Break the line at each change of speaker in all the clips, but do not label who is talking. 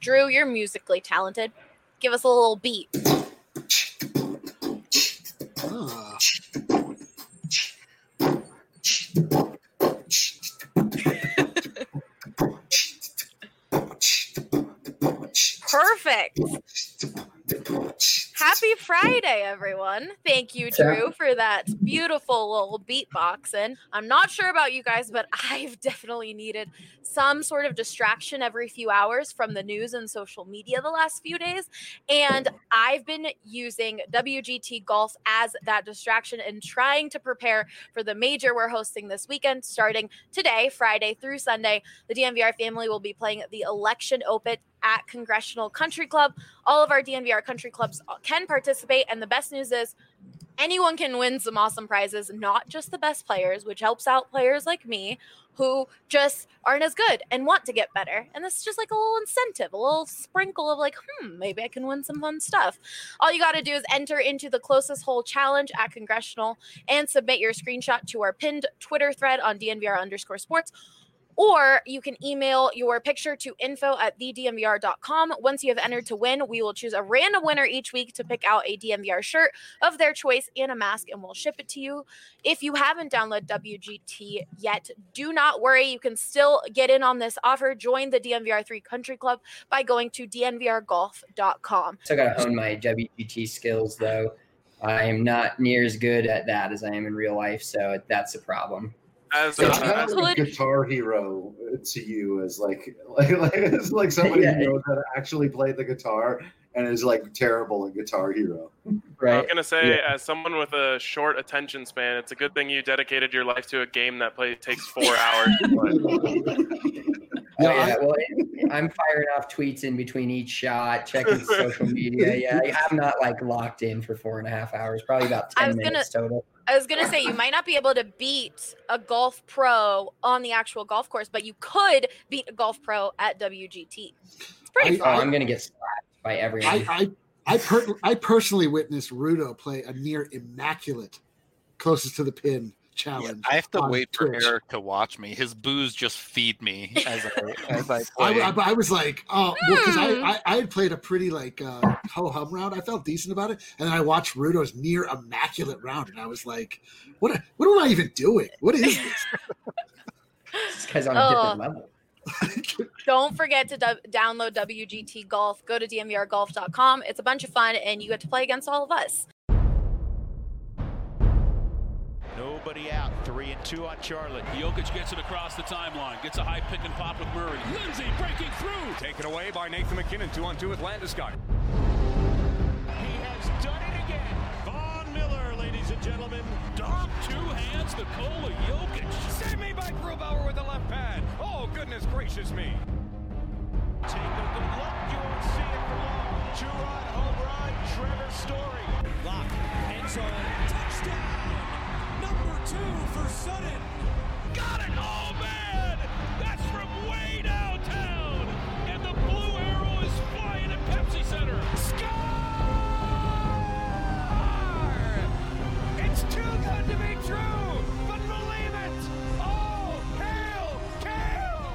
Drew, you're musically talented. Give us a little beat. Perfect. Happy Friday, everyone. Thank you, Drew, for that beautiful little beatboxing. I'm not sure about you guys, but I've definitely needed some sort of distraction every few hours from the news and social media the last few days. And I've been using WGT Golf as that distraction and trying to prepare for the major we're hosting this weekend, starting today, Friday through Sunday. The DNVR family will be playing the Election Open at Congressional Country Club. All of our DNVR country clubs can participate, and the best news is anyone can win some awesome prizes, not just the best players, which helps out players like me who just aren't as good and want to get better. And this is just like a little incentive, a little sprinkle of like, maybe I can win some fun stuff. All you got to do is enter into the closest hole challenge at Congressional and submit your screenshot to our pinned Twitter thread on DNVR_sports. Or you can email your picture to info@thednvr.com. Once you have entered to win, we will choose a random winner each week to pick out a DNVR shirt of their choice and a mask, and we'll ship it to you. If you haven't downloaded WGT yet, do not worry. You can still get in on this offer. Join the DNVR3 Country Club by going to dnvrgolf.com.
Still got to hone my WGT skills, though. I am not near as good at that as I am in real life, so that's a problem.
As
a Guitar Hero to you as like somebody who knows how to actually play the guitar and is like terrible at Guitar Hero.
Right. I was gonna say, as someone with a short attention span, it's a good thing you dedicated your life to a game that takes 4 hours to play.
Well, I'm firing off tweets in between each shot, checking social media. Yeah, I'm not like locked in for 4.5 hours. Probably about 10 minutes total.
I was going to say, you might not be able to beat a golf pro on the actual golf course, but you could beat a golf pro at WGT. It's pretty fun.
I'm going to get slapped by everyone.
I personally witnessed Rudo play a near immaculate closest to the pin challenge.
Yeah, I have to wait for Eric to watch me. His booze just feed me as I play.
I was like, because I had played a pretty ho-hum round. I felt decent about it, and then I watched Rudo's near immaculate round, and I was like, what am I even doing? What is this?
This guy's on a different level.
Don't forget to download WGT Golf. Go to dnvrgolf.com. It's a bunch of fun, and you get to play against all of us.
Nobody out. 3-2 on Charlotte. Jokic gets it across the timeline. Gets a high pick and pop with Murray. Lindsay breaking through.
Taken away by Nathan McKinnon. 2-on-2 with Landeskog.
He has done it again. Von Miller, ladies and gentlemen. Dom, 2 hands, Nikola Jokic.
Save me by Grubauer with the left pad. Oh, goodness gracious me.
Take a good look. You won't see it for long.
2-run home run. Trevor Story.
Lock. End zone. Touchdown. Number 2 for Sutton. Got it! Oh, man! That's from way downtown! And the blue arrow is flying at Pepsi Center.
Score! It's too good to be true, but believe it! All hail Kale!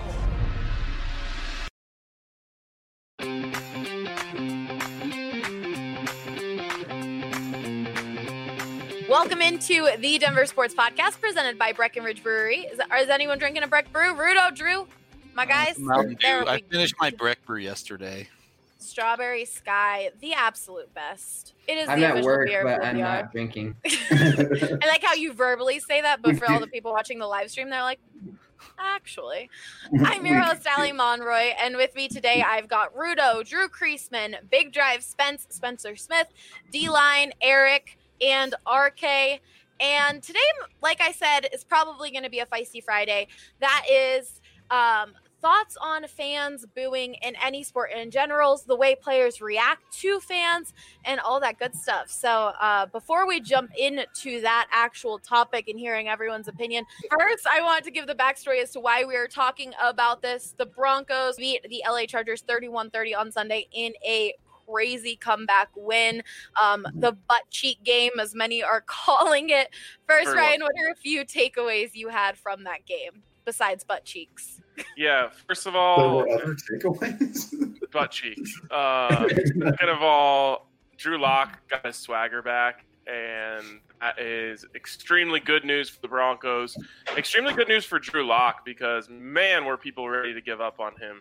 Welcome into the Denver Sports Podcast presented by Breckenridge Brewery. Is anyone drinking a Breck Brew? Rudo, Drew, my guys?
I finished my Breck Brew yesterday.
Strawberry Sky, the absolute best. It is
I'm
the
at
official
work,
beer
but
of
I'm
Boobyard.
not drinking.
I like how you verbally say that, but for all the people watching the live stream, they're like, actually. I'm your host, Allie Monroy, and with me today, I've got Rudo, Drew Kreisman, Big Drive Spencer Smith, D-Line, Eric, and RK. And today, like I said, is probably going to be a feisty Friday. That is thoughts on fans booing in any sport in general, the way players react to fans, and all that good stuff. So before we jump into that actual topic and hearing everyone's opinion, first I want to give the backstory as to why we are talking about this. The Broncos beat the LA Chargers 31-30 on Sunday in a crazy comeback win, the butt cheek game, as many are calling it. First, Ryan, what are a few takeaways you had from that game besides butt cheeks?
Yeah, first of
There
all,
were other takeaways.
butt cheeks. Second of all, Drew Lock got his swagger back, and that is extremely good news for the Broncos. Extremely good news for Drew Lock because, man, were people ready to give up on him.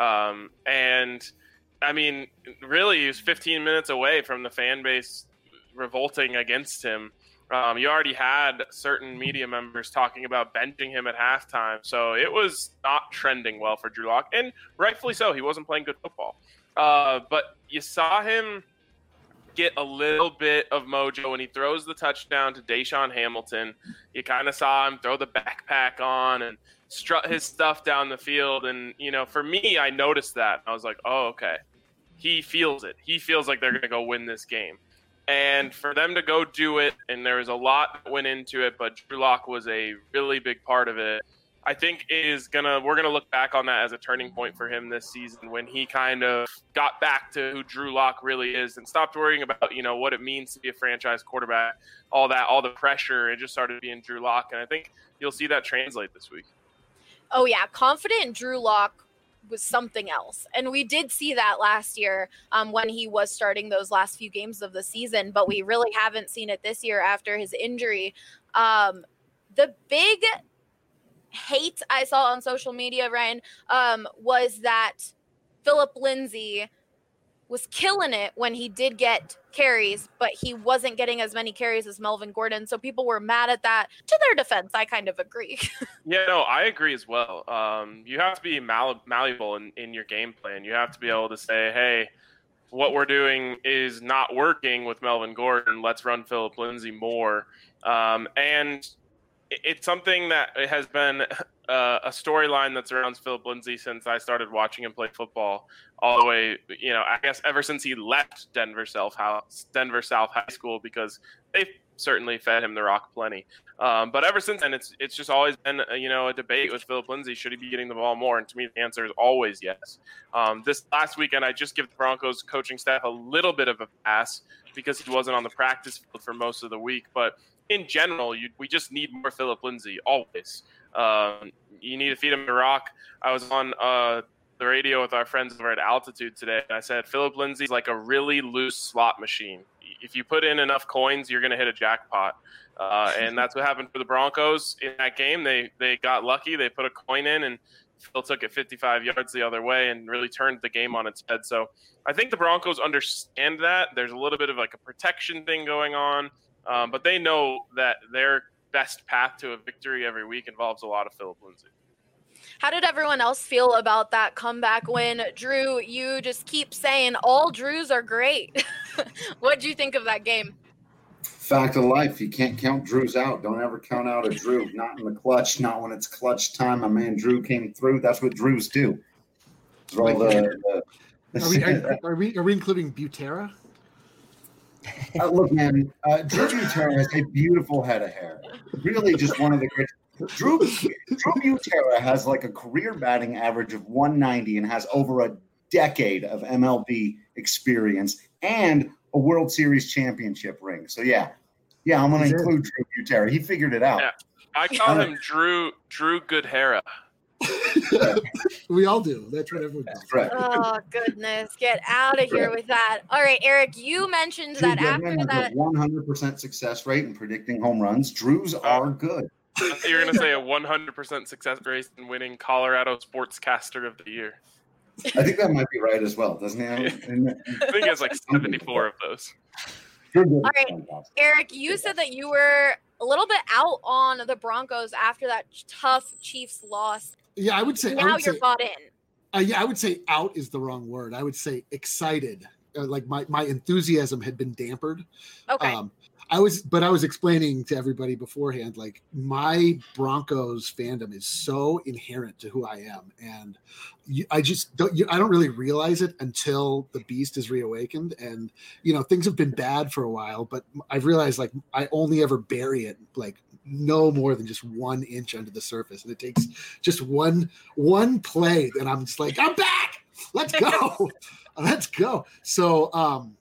And, I mean, really, he was 15 minutes away from the fan base revolting against him. You already had certain media members talking about benching him at halftime, so it was not trending well for Drew Lock, and rightfully so. He wasn't playing good football. But you saw him get a little bit of mojo when he throws the touchdown to Deshaun Hamilton. You kind of saw him throw the backpack on and strut his stuff down the field, and, you know, for me, I noticed that. I was like, oh, okay. He feels it. He feels like they're going to go win this game. And for them to go do it, and there was a lot that went into it, but Drew Lock was a really big part of it. I think we're gonna look back on that as a turning point for him this season when he kind of got back to who Drew Lock really is and stopped worrying about, you know, what it means to be a franchise quarterback, all the pressure, and just started being Drew Lock. And I think you'll see that translate this week.
Oh yeah, confident Drew Lock was something else. And we did see that last year when he was starting those last few games of the season, but we really haven't seen it this year after his injury. The big hate I saw on social media, Ryan, was that Phillip Lindsay was killing it when he did get carries, but he wasn't getting as many carries as Melvin Gordon. So people were mad at that. To their defense, I kind of agree.
Yeah, no, I agree as well. You have to be malleable in your game plan. You have to be able to say, hey, what we're doing is not working with Melvin Gordon. Let's run Phillip Lindsay more. And it's something that it has been a storyline that surrounds Phillip Lindsay since I started watching him play football all the way, you know, I guess ever since he left Denver South High School, because they've certainly fed him the rock plenty. But ever since then, it's just always been, a debate with Phillip Lindsay. Should he be getting the ball more? And to me, the answer is always yes. This last weekend, I just give the Broncos coaching staff a little bit of a pass because he wasn't on the practice field for most of the week. But in general, we just need more Phillip Lindsay, always. You need to feed him the rock. I was on the radio with our friends over at Altitude today, and I said Phillip Lindsay's like a really loose slot machine. If you put in enough coins, you're going to hit a jackpot. And that's what happened for the Broncos in that game. They got lucky. They put a coin in, and Phil took it 55 yards the other way and really turned the game on its head. So I think the Broncos understand that. There's a little bit of like a protection thing going on, but they know that their best path to a victory every week involves a lot of Phillip Lindsay.
How did everyone else feel about that comeback win? Drew, you just keep saying all Drews are great. What did you think of that game?
Fact of life. You can't count Drews out. Don't ever count out a Drew. Not in the clutch. Not when it's clutch time. My man Drew came through. That's what Drews do.
Are we including Butera?
Look, man, Drew Butera has a beautiful head of hair. Really just one of the great. Drew Butera has like a career batting average of 190 and has over a decade of MLB experience and a World Series championship ring. So, yeah, I'm going to include Drew Butera. He figured it out.
Yeah. I call him Drew Goodhara.
We all do. That's what everyone does.
Right.
Oh, goodness. Get out of here with that. All right, Eric, you mentioned
Drew
that
Goodman
after that.
has a 100% success rate in predicting home runs. Drews are good.
I thought you were going to say a 100% success rate in winning Colorado Sportscaster of the Year.
I think that might be right as well, doesn't it?
I think he has like 74 of those.
All right, Eric, you said that you were a little bit out on the Broncos after that tough Chiefs loss.
Yeah, I would say.
Now you're bought in.
Yeah, I would say out is the wrong word. I would say excited. Like my enthusiasm had been dampened.
Okay.
I was explaining to everybody beforehand, like my Broncos fandom is so inherent to who I am. And I don't really realize it until the beast is reawakened. And, things have been bad for a while, but I've realized like I only ever bury it like no more than just 1 inch under the surface. And it takes just one play and I'm just like, I'm back. Let's go. Let's go. So,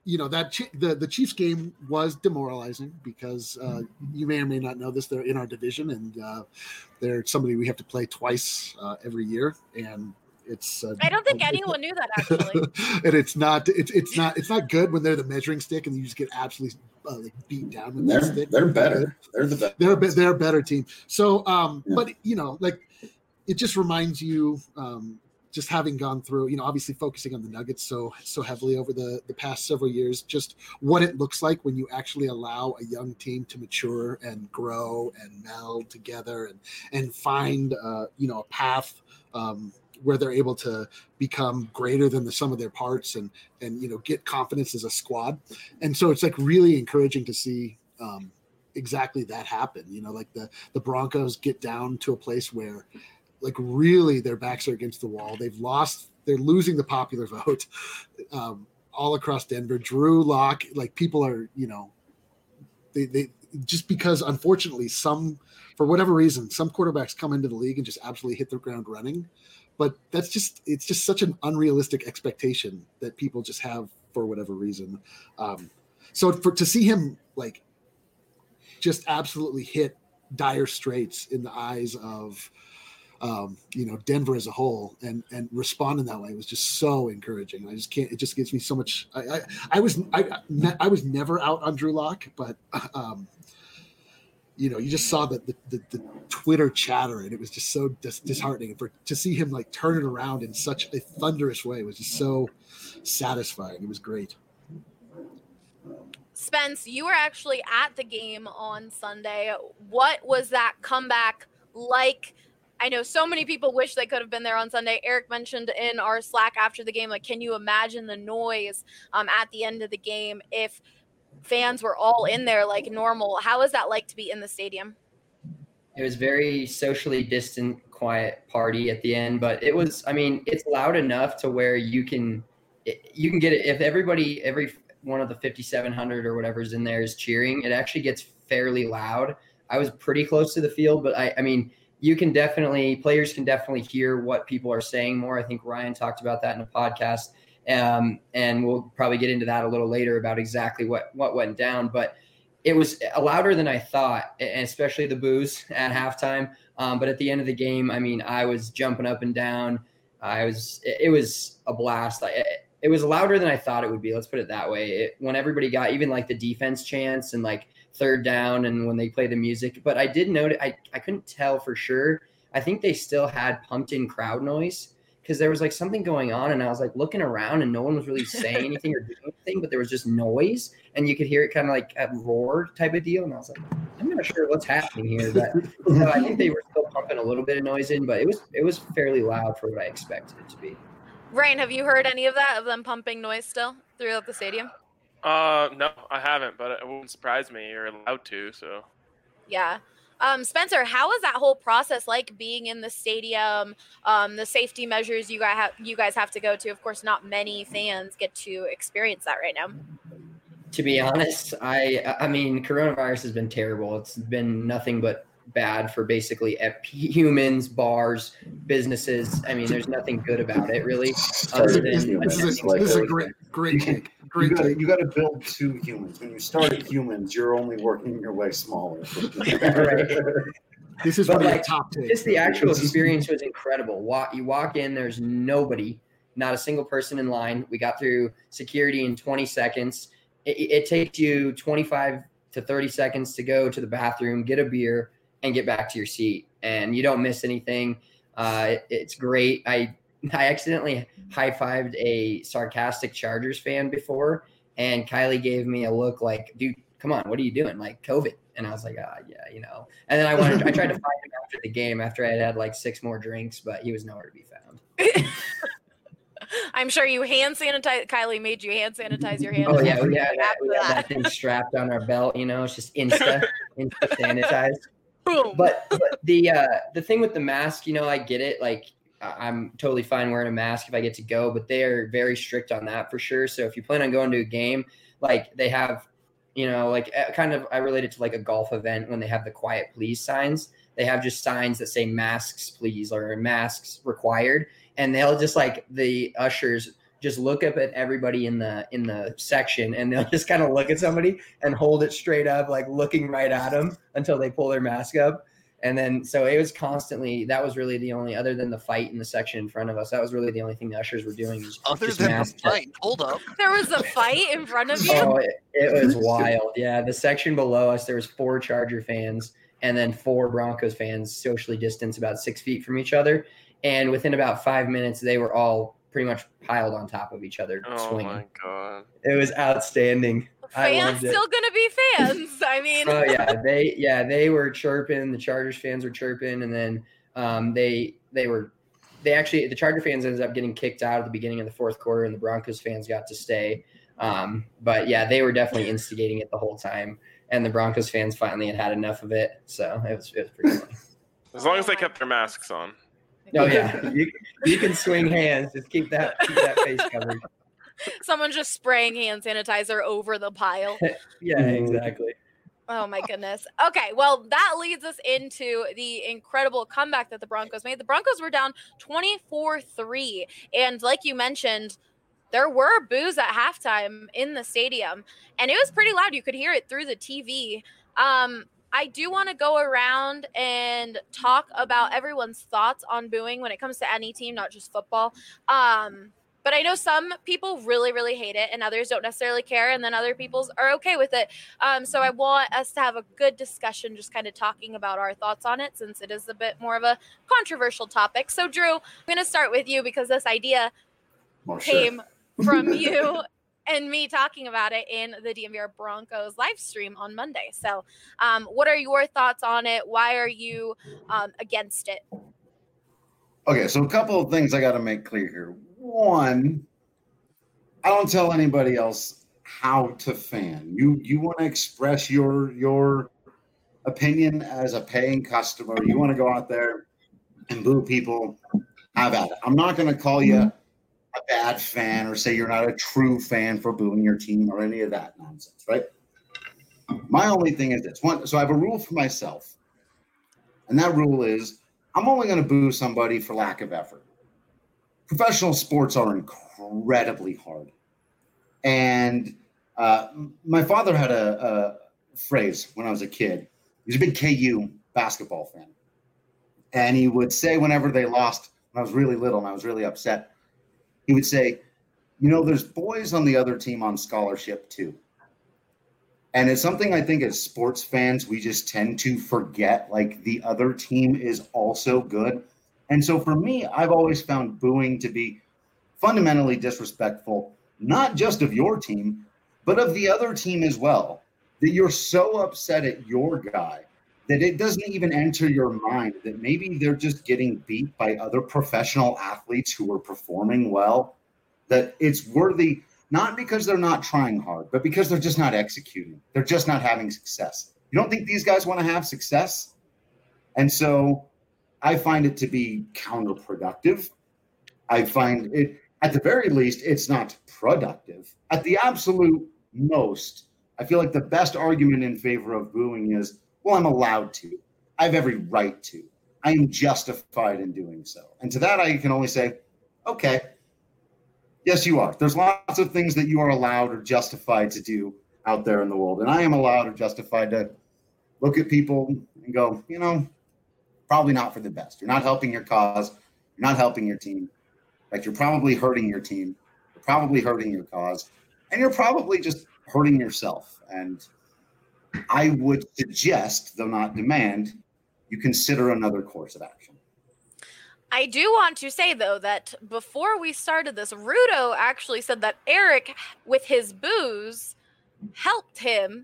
the Chiefs game was demoralizing because you may or may not know this. They're in our division, and they're somebody we have to play twice every year, and it's.
I don't think anyone knew that actually.
And it's not good when they're the measuring stick and you just get absolutely beat down with that stick.
They're better. They're the best.
They're a better team. So, but it just reminds you. Just having gone through, obviously focusing on the Nuggets so heavily over the past several years, just what it looks like when you actually allow a young team to mature and grow and meld together and find, a path where they're able to become greater than the sum of their parts and get confidence as a squad. And so it's like really encouraging to see exactly that happen. Like the Broncos get down to a place where like really their backs are against the wall. They're losing the popular vote all across Denver. Drew Lock, like people are, they just because unfortunately for whatever reason, some quarterbacks come into the league and just absolutely hit the ground running. But it's just such an unrealistic expectation that people just have for whatever reason. So to see him like just absolutely hit dire straits in the eyes of, Denver as a whole and respond in that way was just so encouraging. I just can't, it just gives me so much. I was never out on Drew Lock, but you just saw the Twitter chatter and it was just so disheartening. And to see him like turn it around in such a thunderous way was just so satisfying. It was great.
Spence, you were actually at the game on Sunday. What was that comeback like? I know so many people wish they could have been there on Sunday. Eric mentioned in our Slack after the game, like, can you imagine the noise at the end of the game if fans were all in there like normal? How is that like to be in the stadium?
It was very socially distant, quiet party at the end, but it's loud enough to where you can get it. If every one of the 5,700 or whatever is in there is cheering, it actually gets fairly loud. I was pretty close to the field, but players can definitely hear what people are saying more. I think Ryan talked about that in a podcast, and we'll probably get into that a little later about exactly what went down. But it was louder than I thought, and especially the boos at halftime. But at the end of the game, I was jumping up and down. It was a blast. It was louder than I thought it would be. Let's put it that way. When everybody got even like the defense chants and like third down and when they play the music, but I did note I couldn't tell for sure. I think they still had pumped in crowd noise because there was like something going on and I was like looking around and no one was really saying anything or doing anything, but there was just noise and you could hear it kind of like a roar type of deal. And I was like, I'm not sure what's happening here, but I think they were still pumping a little bit of noise in, but it was fairly loud for what I expected it to be.
Ryan, have you heard any of that, of them pumping noise still throughout the stadium?
No, I haven't, but it wouldn't surprise me. You're allowed to, so.
Yeah. Spencer, how is that whole process like being in the stadium? The safety measures you guys have to go to. Of course, not many fans get to experience that right now.
To be honest, I mean, coronavirus has been terrible. It's been nothing but bad for basically humans, bars, businesses. I mean, there's nothing good about it, really. Other than
this is a great take.
You got to build two humans. When you start at humans, you're only working your way smaller.
Right.
This is like top take.
Just the actual experience was incredible. You walk in, there's nobody, not a single person in line. We got through security in 20 seconds. It takes you 25 to 30 seconds to go to the bathroom, get a beer, and get back to your seat, and you don't miss anything. It's great. I accidentally high-fived a sarcastic Chargers fan before, and Kylie gave me a look like, dude, come on, what are you doing? Like COVID. And I was like, yeah, And then I tried to find him after the game after I had like 6 more drinks, but he was nowhere to be found.
I'm sure you hand sanitize. Kylie made you hand sanitize your hands.
Oh yeah, we had that thing strapped on our belt. It's just insta sanitized.
Boom.
But the thing with the mask, I get it. Like I'm totally fine wearing a mask if I get to go, but they are very strict on that for sure. So if you plan on going to a game, like they have, kind of, I relate it to like a golf event when they have the quiet please signs. They have just signs that say masks please or masks required. And they'll just like the ushers just look up at everybody in the section, and they'll just kind of look at somebody and hold it straight up, like looking right at them until they pull their mask up. And then, so it was constantly, that was really the only, other than the fight in the section in front of us, that was really the only thing the ushers were doing.
Other than the fight, hold up.
There was a fight in front of you?
Oh, it was wild. Yeah, the section below us, there was 4 Charger fans and then 4 Broncos fans socially distanced about 6 feet from each other. And within about 5 minutes, they were all pretty much piled on top of each other, swinging. Oh, my
God.
It was outstanding.
Fans still gonna be fans. I mean,
oh they were chirping. The Chargers fans were chirping, and then the Charger fans ended up getting kicked out at the beginning of the 4th quarter, and the Broncos fans got to stay. But yeah, they were definitely instigating it the whole time, and the Broncos fans finally had enough of it. So it was pretty funny.
As long as they kept their masks on.
Oh yeah, you can swing hands. Just keep that face covered.
Someone just spraying hand sanitizer over the pile.
Yeah, exactly.
Oh my goodness. Okay, well, that leads us into the incredible comeback that the Broncos made. The Broncos were down 24-3, and like you mentioned, there were boos at halftime in the stadium, and it was pretty loud. You could hear it through the TV. I do want to go around and talk about everyone's thoughts on booing when it comes to any team, not just football. But I know some people really, really hate it, and others don't necessarily care, and then other people are okay with it. So I want us to have a good discussion, just kind of talking about our thoughts on it, since it is a bit more of a controversial topic. So, Drew, I'm going to start with you because this idea came from you and me talking about it in the DNVR Broncos live stream on Monday. So what are your thoughts on it? Why are you against it?
Okay, so a couple of things I got to make clear here. One, I don't tell anybody else how to fan. You want to express your opinion as a paying customer. You want to go out there and boo people, have at it. I'm not going to call you a bad fan or say you're not a true fan for booing your team or any of that nonsense, right? My only thing is this. So I have a rule for myself, and that rule is I'm only going to boo somebody for lack of effort. Professional sports are incredibly hard. And my father had a phrase when I was a kid. He was a big KU basketball fan. And he would say whenever they lost, when I was really little and I was really upset, he would say, there's boys on the other team on scholarship too. And it's something I think as sports fans, we just tend to forget, like the other team is also good. And so for me, I've always found booing to be fundamentally disrespectful, not just of your team, but of the other team as well. That you're so upset at your guy that it doesn't even enter your mind that maybe they're just getting beat by other professional athletes who are performing well, that it's worthy, not because they're not trying hard, but because they're just not executing. They're just not having success. You don't think these guys want to have success? And so I find it to be counterproductive. I find it, at the very least, it's not productive. At the absolute most, I feel like the best argument in favor of booing is, well, I'm allowed to. I have every right to. I am justified in doing so. And to that, I can only say, okay, yes, you are. There's lots of things that you are allowed or justified to do out there in the world. And I am allowed or justified to look at people and go, probably not for the best. You're not helping your cause. You're not helping your team. Like, you're probably hurting your team. You're probably hurting your cause. And you're probably just hurting yourself. And I would suggest, though not demand, you consider another course of action.
I do want to say, though, that before we started this, Rudo actually said that Eric, with his booze, helped him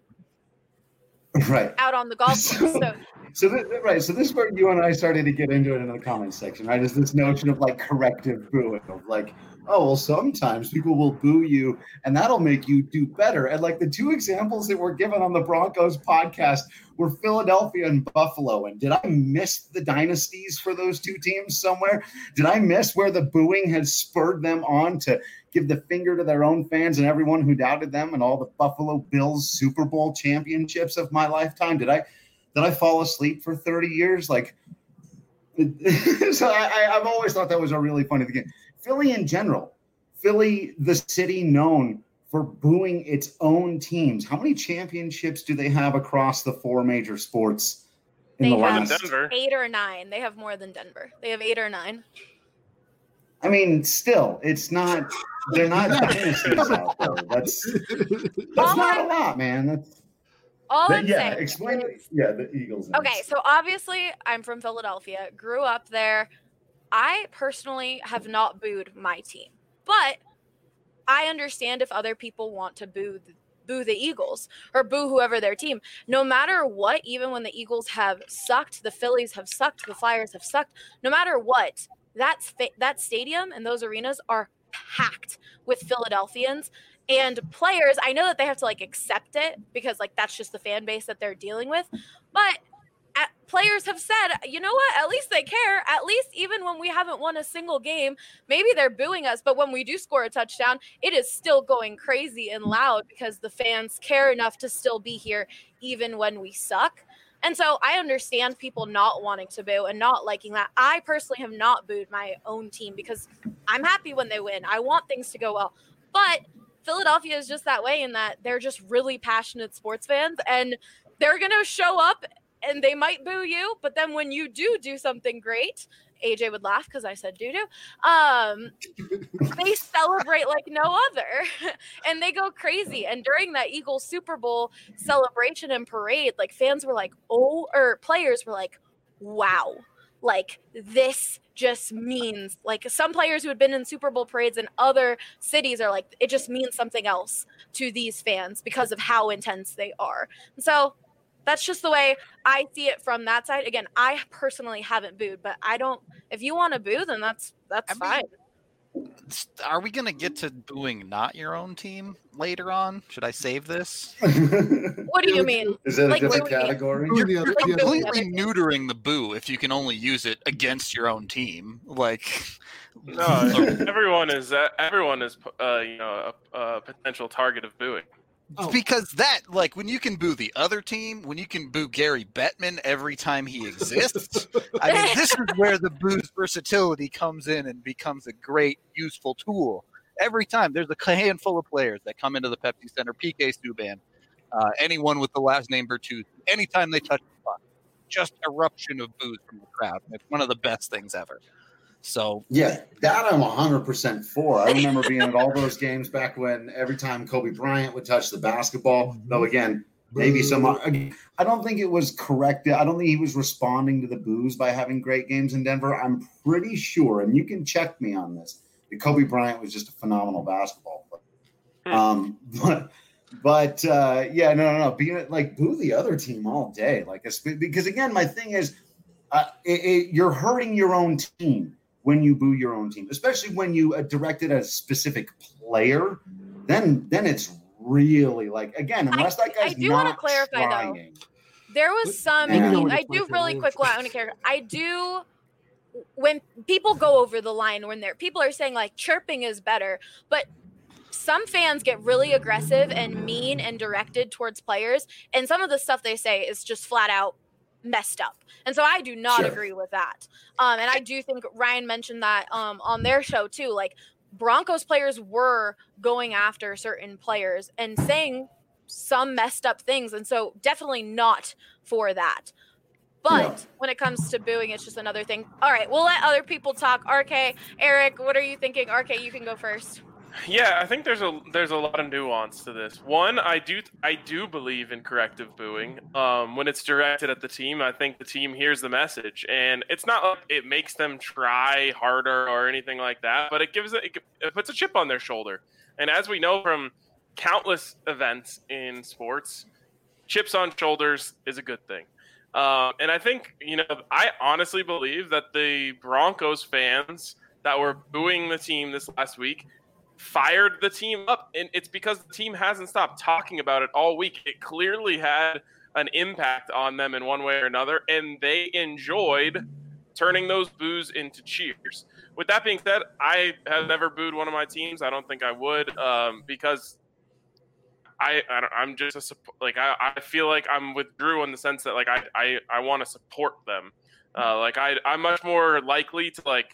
out on the golf course.
So this is where you and I started to get into it in the comments section, right? Is this notion of like corrective booing, of like, oh, well, sometimes people will boo you and that'll make you do better. And like the two examples that were given on the Broncos podcast were Philadelphia and Buffalo. And did I miss the dynasties for those two teams somewhere? Did I miss where the booing has spurred them on to give the finger to their own fans and everyone who doubted them and all the Buffalo Bills Super Bowl championships of my lifetime? Did I fall asleep for 30 years? Like, so I've always thought that was a really funny thing. Philly in general Philly the city known for booing its own teams? How many championships do they have across the 4 major sports in the last?
Denver.
8 or 9. They have more than Denver. They have 8 or 9.
I mean, still, it's not. They're not dynasties out there. That's not a lot, man. That's
all I'm saying.
Explain it. Yeah, the Eagles.
Okay, so obviously I'm from Philadelphia, grew up there. I personally have not booed my team, but I understand if other people want to boo the Eagles or boo whoever their team. No matter what, even when the Eagles have sucked, the Phillies have sucked, the Flyers have sucked, no matter what, that stadium and those arenas are packed with Philadelphians and players. I know that they have to accept it because that's just the fan base that they're dealing with, but players have said, you know what, at least they care. At least even when we haven't won a single game, maybe they're booing us, but when we do score a touchdown, it is still going crazy and loud because the fans care enough to still be here even when we suck. And so I understand people not wanting to boo and not liking that. I personally have not booed my own team because I'm happy when they win. I want things to go well. But Philadelphia is just that way in that they're just really passionate sports fans, and they're going to show up and they might boo you. But then when you do something great, AJ would laugh because I said doo-doo. They celebrate like no other, and they go crazy. And during that Eagles Super Bowl celebration and parade, fans were players were like, wow, this just means, some players who had been in Super Bowl parades in other cities are like, it just means something else to these fans because of how intense they are. And so that's just the way I see it from that side. Again, I personally haven't booed, but if you want to boo, then that's fine.
Are we going to get to booing not your own team later on? Should I save this?
What do you mean?
Is that a different category?
You're completely neutering the boo if you can only use it against your own team.
No, everyone is a potential target of booing.
Because when you can boo the other team, when you can boo Gary Bettman every time he exists, I mean, this is where the boo's versatility comes in and becomes a great, useful tool. Every time there's a handful of players that come into the Pepsi Center, PK Subban, anyone with the last name Bertuzzi, anytime they touch the puck, just eruption of boos from the crowd. It's one of the best things ever. So
yeah, that I'm 100% for. I remember being at all those games back when every time Kobe Bryant would touch the basketball, though again, maybe I don't think it was correct. I don't think he was responding to the boos by having great games in Denver. I'm pretty sure, and you can check me on this, that Kobe Bryant was just a phenomenal basketball player. No. Being boo the other team all day, because again, my thing is, you're hurting your own team when you boo your own team, especially when you direct it at a specific player. Then it's really unless that guy's
I do want to clarify
trying.
though. There was some. I do really quick. I want to clarify. I do. When people go over the line, when people are saying chirping is better, but some fans get really aggressive and mean and directed towards players, and some of the stuff they say is just flat out messed up. And so I do not agree with that. And I do think Ryan mentioned that on their show too. Broncos players were going after certain players and saying some messed up things. And so definitely not for that. But when it comes to booing, it's just another thing. All right, we'll let other people talk. RK, Eric, what are you thinking? RK, you can go first.
Yeah, I think there's a lot of nuance to this. One, I do believe in corrective booing. When it's directed at the team, I think the team hears the message, and it's not like it makes them try harder or anything like that, but it puts a chip on their shoulder. And as we know from countless events in sports, chips on shoulders is a good thing. And I think, I honestly believe that the Broncos fans that were booing the team this last week fired the team up, and it's because the team hasn't stopped talking about it all week. It clearly had an impact on them in one way or another, and they enjoyed turning those boos into cheers. With that being said, I have never booed one of my teams. I don't think I would, because I'm just I feel like I'm with Drew in the sense that I want to support them. I'm much more likely to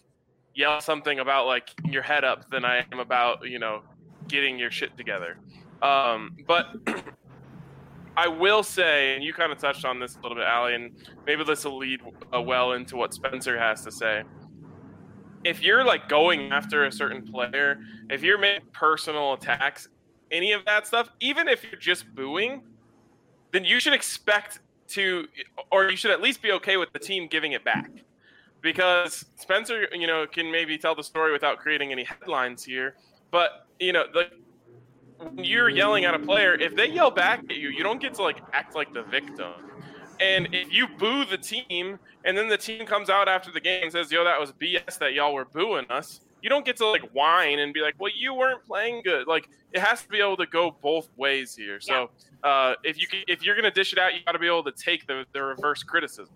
yell something about like your head up than I am about, getting your shit together. But I will say, and you kind of touched on this a little bit, Allie, and maybe this will lead well into what Spencer has to say. If you're like going after a certain player, if you're making personal attacks, any of that stuff, even if you're just booing, then you should expect to, or you should at least be okay with the team giving it back. Because Spencer, can maybe tell the story without creating any headlines here, but when you're yelling at a player, if they yell back at you, you don't get to like act like the victim. And if you boo the team and then the team comes out after the game and says, yo, that was BS that y'all were booing us, you don't get to like whine and be like, well, you weren't playing good. Like, it has to be able to go both ways here. So if you're going to dish it out, you got to be able to take the reverse criticism.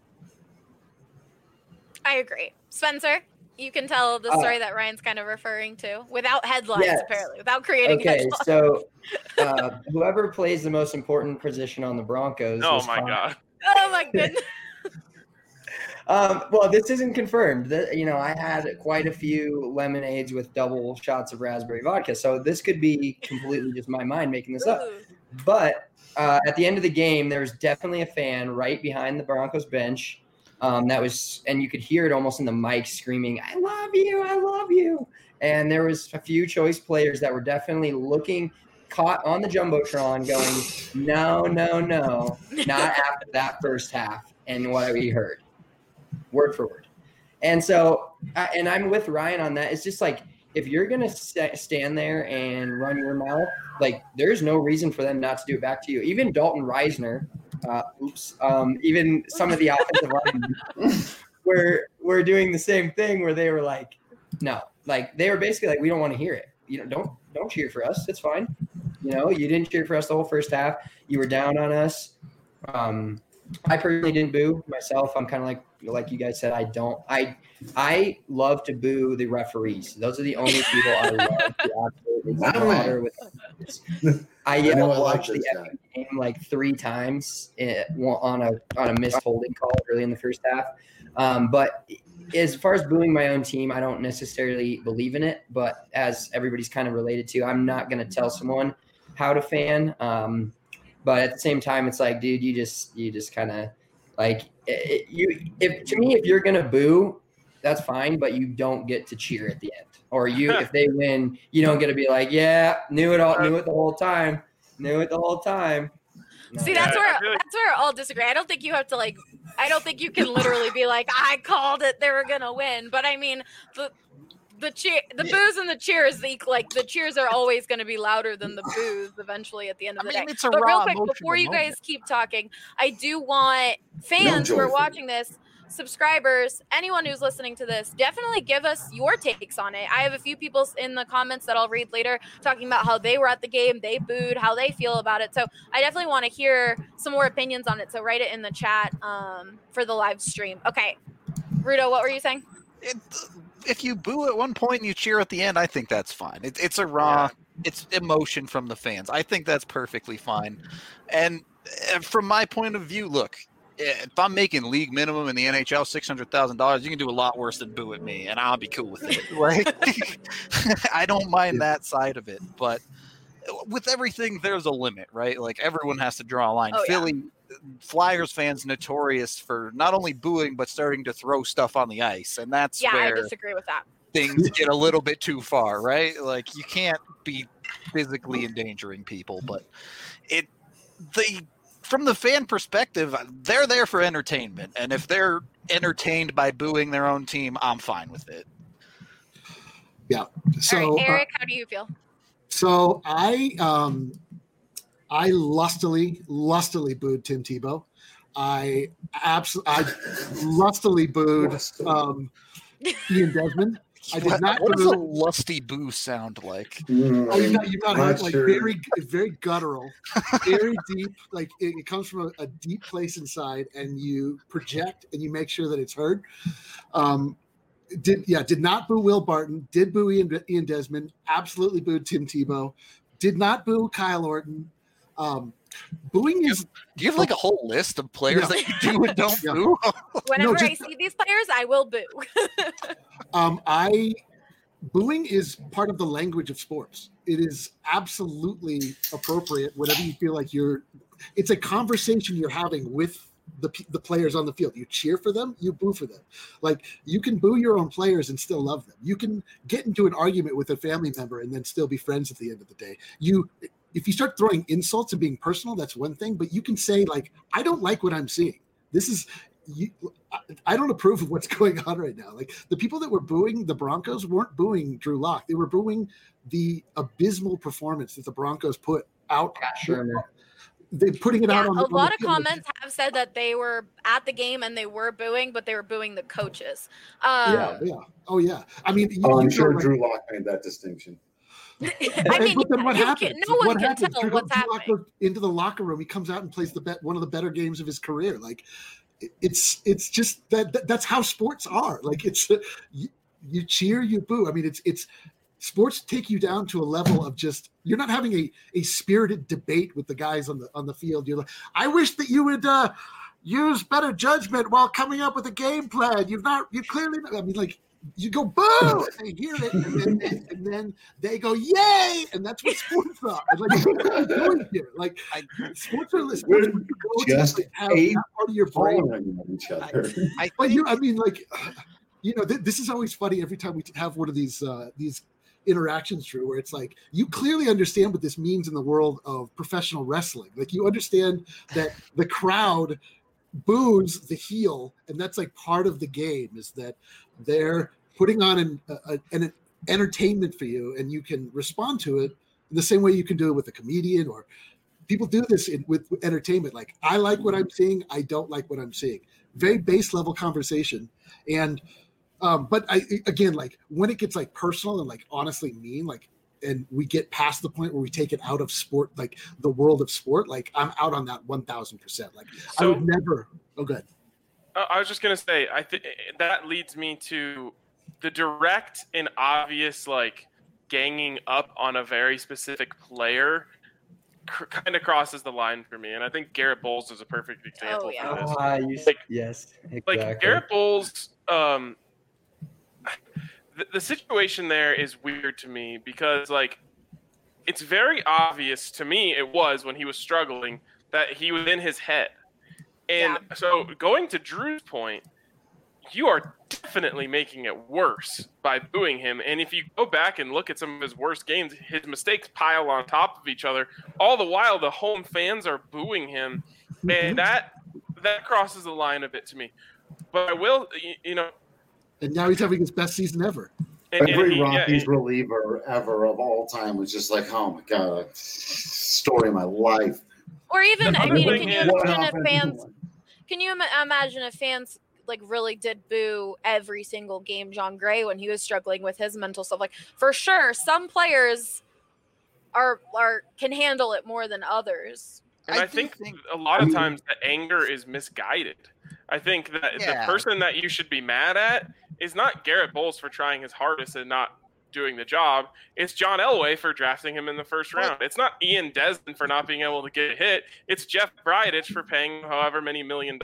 I agree. Spencer, you can tell the story that Ryan's kind of referring to without headlines, apparently, without creating headlines.
So whoever plays the most important position on the Broncos.
Oh, my God.
Oh, my goodness.
Well, this isn't confirmed. I had quite a few lemonades with double shots of raspberry vodka, so this could be completely just my mind making this up. But at the end of the game, there was definitely a fan right behind the Broncos bench. That was, and you could hear it almost in the mic screaming, "I love you, I love you." And there was a few choice players that were definitely caught on the Jumbotron going, no, not after that first half and what we heard, word for word. And so, and I'm with Ryan on that. It's just like, if you're going to stand there and run your mouth, like there's no reason for them not to do it back to you. Even Dalton Reisner, even some of the offensive linemen were doing the same thing where they were like, no, like they were basically like, we don't want to hear it. Don't cheer for us. It's fine. You didn't cheer for us the whole first half. You were down on us. I personally didn't boo myself. I'm kind of like you guys said, I love to boo the referees. Those are the only people I love to absolutely slaughter with. I watched the game like 3 times on a missed holding call early in the first half. But as far as booing my own team, I don't necessarily believe in it. But as everybody's kind of related to, I'm not going to tell someone how to fan. But at the same time, it's like, dude, you just kind of like if you're going to boo, that's fine, but you don't get to cheer at the end. Or if they win, you don't get to be like, yeah, knew it the whole time. No.
See, that's where I'll disagree. I don't think you have to I don't think you can literally be like, I called it, they were gonna win. But I mean, the boos and the cheers, the cheers are always going to be louder than the boos eventually at the end of the day.
It's a
but
raw
real quick, before you guys keep talking, I do want fans who are watching this, subscribers, anyone who's listening to this, definitely give us your takes on it. I have a few people in the comments that I'll read later talking about how they were at the game, they booed, how they feel about it. So I definitely want to hear some more opinions on it. So write it in the chat for the live stream. Okay. Rudo, what were you saying?
If you boo at one point and you cheer at the end, I think that's fine. It's a raw, it's emotion from the fans. I think that's perfectly fine. And from my point of view, look, if I'm making league minimum in the NHL, $600,000, you can do a lot worse than boo at me, and I'll be cool with it. Like, I don't mind that side of it, but with everything, there's a limit, right? Like, everyone has to draw a line. Philly Flyers fans notorious for not only booing but starting to throw stuff on the ice, and that's where
I disagree with that.
Things get a little bit too far, right? Like, you can't be physically endangering people, but from the fan perspective, they're there for entertainment, and if they're entertained by booing their own team, I'm fine with it.
Yeah. So,
all right, Eric, how do you feel?
So I lustily booed Tim Tebow. I lustily booed Ian Desmond. I did not.
What does a lusty boo sound like?
Oh, you've not heard, like very guttural, very deep. Like it comes from a deep place inside, and you project and you make sure that it's heard. Did not boo Will Barton. Did boo Ian Desmond. Absolutely booed Tim Tebow. Did not boo Kyle Orton. Booing is.
Do you have like a whole list of players that you do and don't boo?
Whenever I see these players, I will boo.
Booing is part of the language of sports. It is absolutely appropriate whenever you feel like it's a conversation you're having with the players on the field. You cheer for them, you boo for them. Like, you can boo your own players and still love them. You can get into an argument with a family member and then still be friends at the end of the day. If you start throwing insults and being personal, that's one thing, but you can say, like, I don't like what I'm seeing. I don't approve of what's going on right now. Like, the people that were booing the Broncos weren't booing Drew Lock. They were booing the abysmal performance that the Broncos put out. They're putting it out on
a lot of comments have said that they were at the game and they were booing, but they were booing the coaches.
Oh yeah. I mean,
I'm sure Drew Lock made that distinction.
I mean,
but then what happens?
No one can tell what's happening.
Goes into the locker room. He comes out and plays one of the better games of his career. Like, it's just that's how sports are. Like, it's you cheer, you boo. I mean, it's sports take you down to a level of just, you're not having a spirited debate with the guys on the field. You're like, I wish that you would use better judgment while coming up with a game plan. You clearly, I mean, like, you go boo, and they hear it, and then they go yay, and that's what sports are. Like, what are you doing here? Like, sports are just have that part of your brain.
Each other.
I mean, like, this is always funny every time we have one of these interactions, Drew, where it's like, you clearly understand what this means in the world of professional wrestling. Like, you understand that the crowd boos the heel, and that's like part of the game, is that they're putting on an entertainment for you, and you can respond to it in the same way you can do it with a comedian, or people do this with entertainment. Like, I like what I'm seeing, I don't like what I'm seeing. Very base level conversation. And but again, like, when it gets like personal and like honestly mean, like, and we get past the point where we take it out of sport, like the world of sport, like, I'm out on that 1,000%. Like, I would never. Oh, good.
I was just gonna say, I think that leads me to the direct and obvious, like, ganging up on a very specific player kind of crosses the line for me, and I think Garrett Bowles is a perfect example for this.
Yes, exactly.
Like, Garrett Bowles, the situation there is weird to me because, like, it's very obvious to me, it was when he was struggling, that he was in his head. And so going to Drew's point, you are definitely making it worse by booing him. And if you go back and look at some of his worst games, his mistakes pile on top of each other. All the while, the home fans are booing him. And that crosses the line a bit to me. But I will,
And now he's having his best season ever.
Every Rockies reliever ever of all time was just like, oh my God, story of my life.
Or even, I mean, can you imagine if fans like really did boo every single game John Gray when he was struggling with his mental stuff? Like, for sure, some players can handle it more than others.
And I think a lot of times the anger is misguided. I think that the person that you should be mad at is not Garrett Bowles for trying his hardest and not doing the job. It's John Elway for drafting him in the first round. It's not Ian Desmond for not being able to get a hit. It's Jeff Bridich for paying however many $1 million.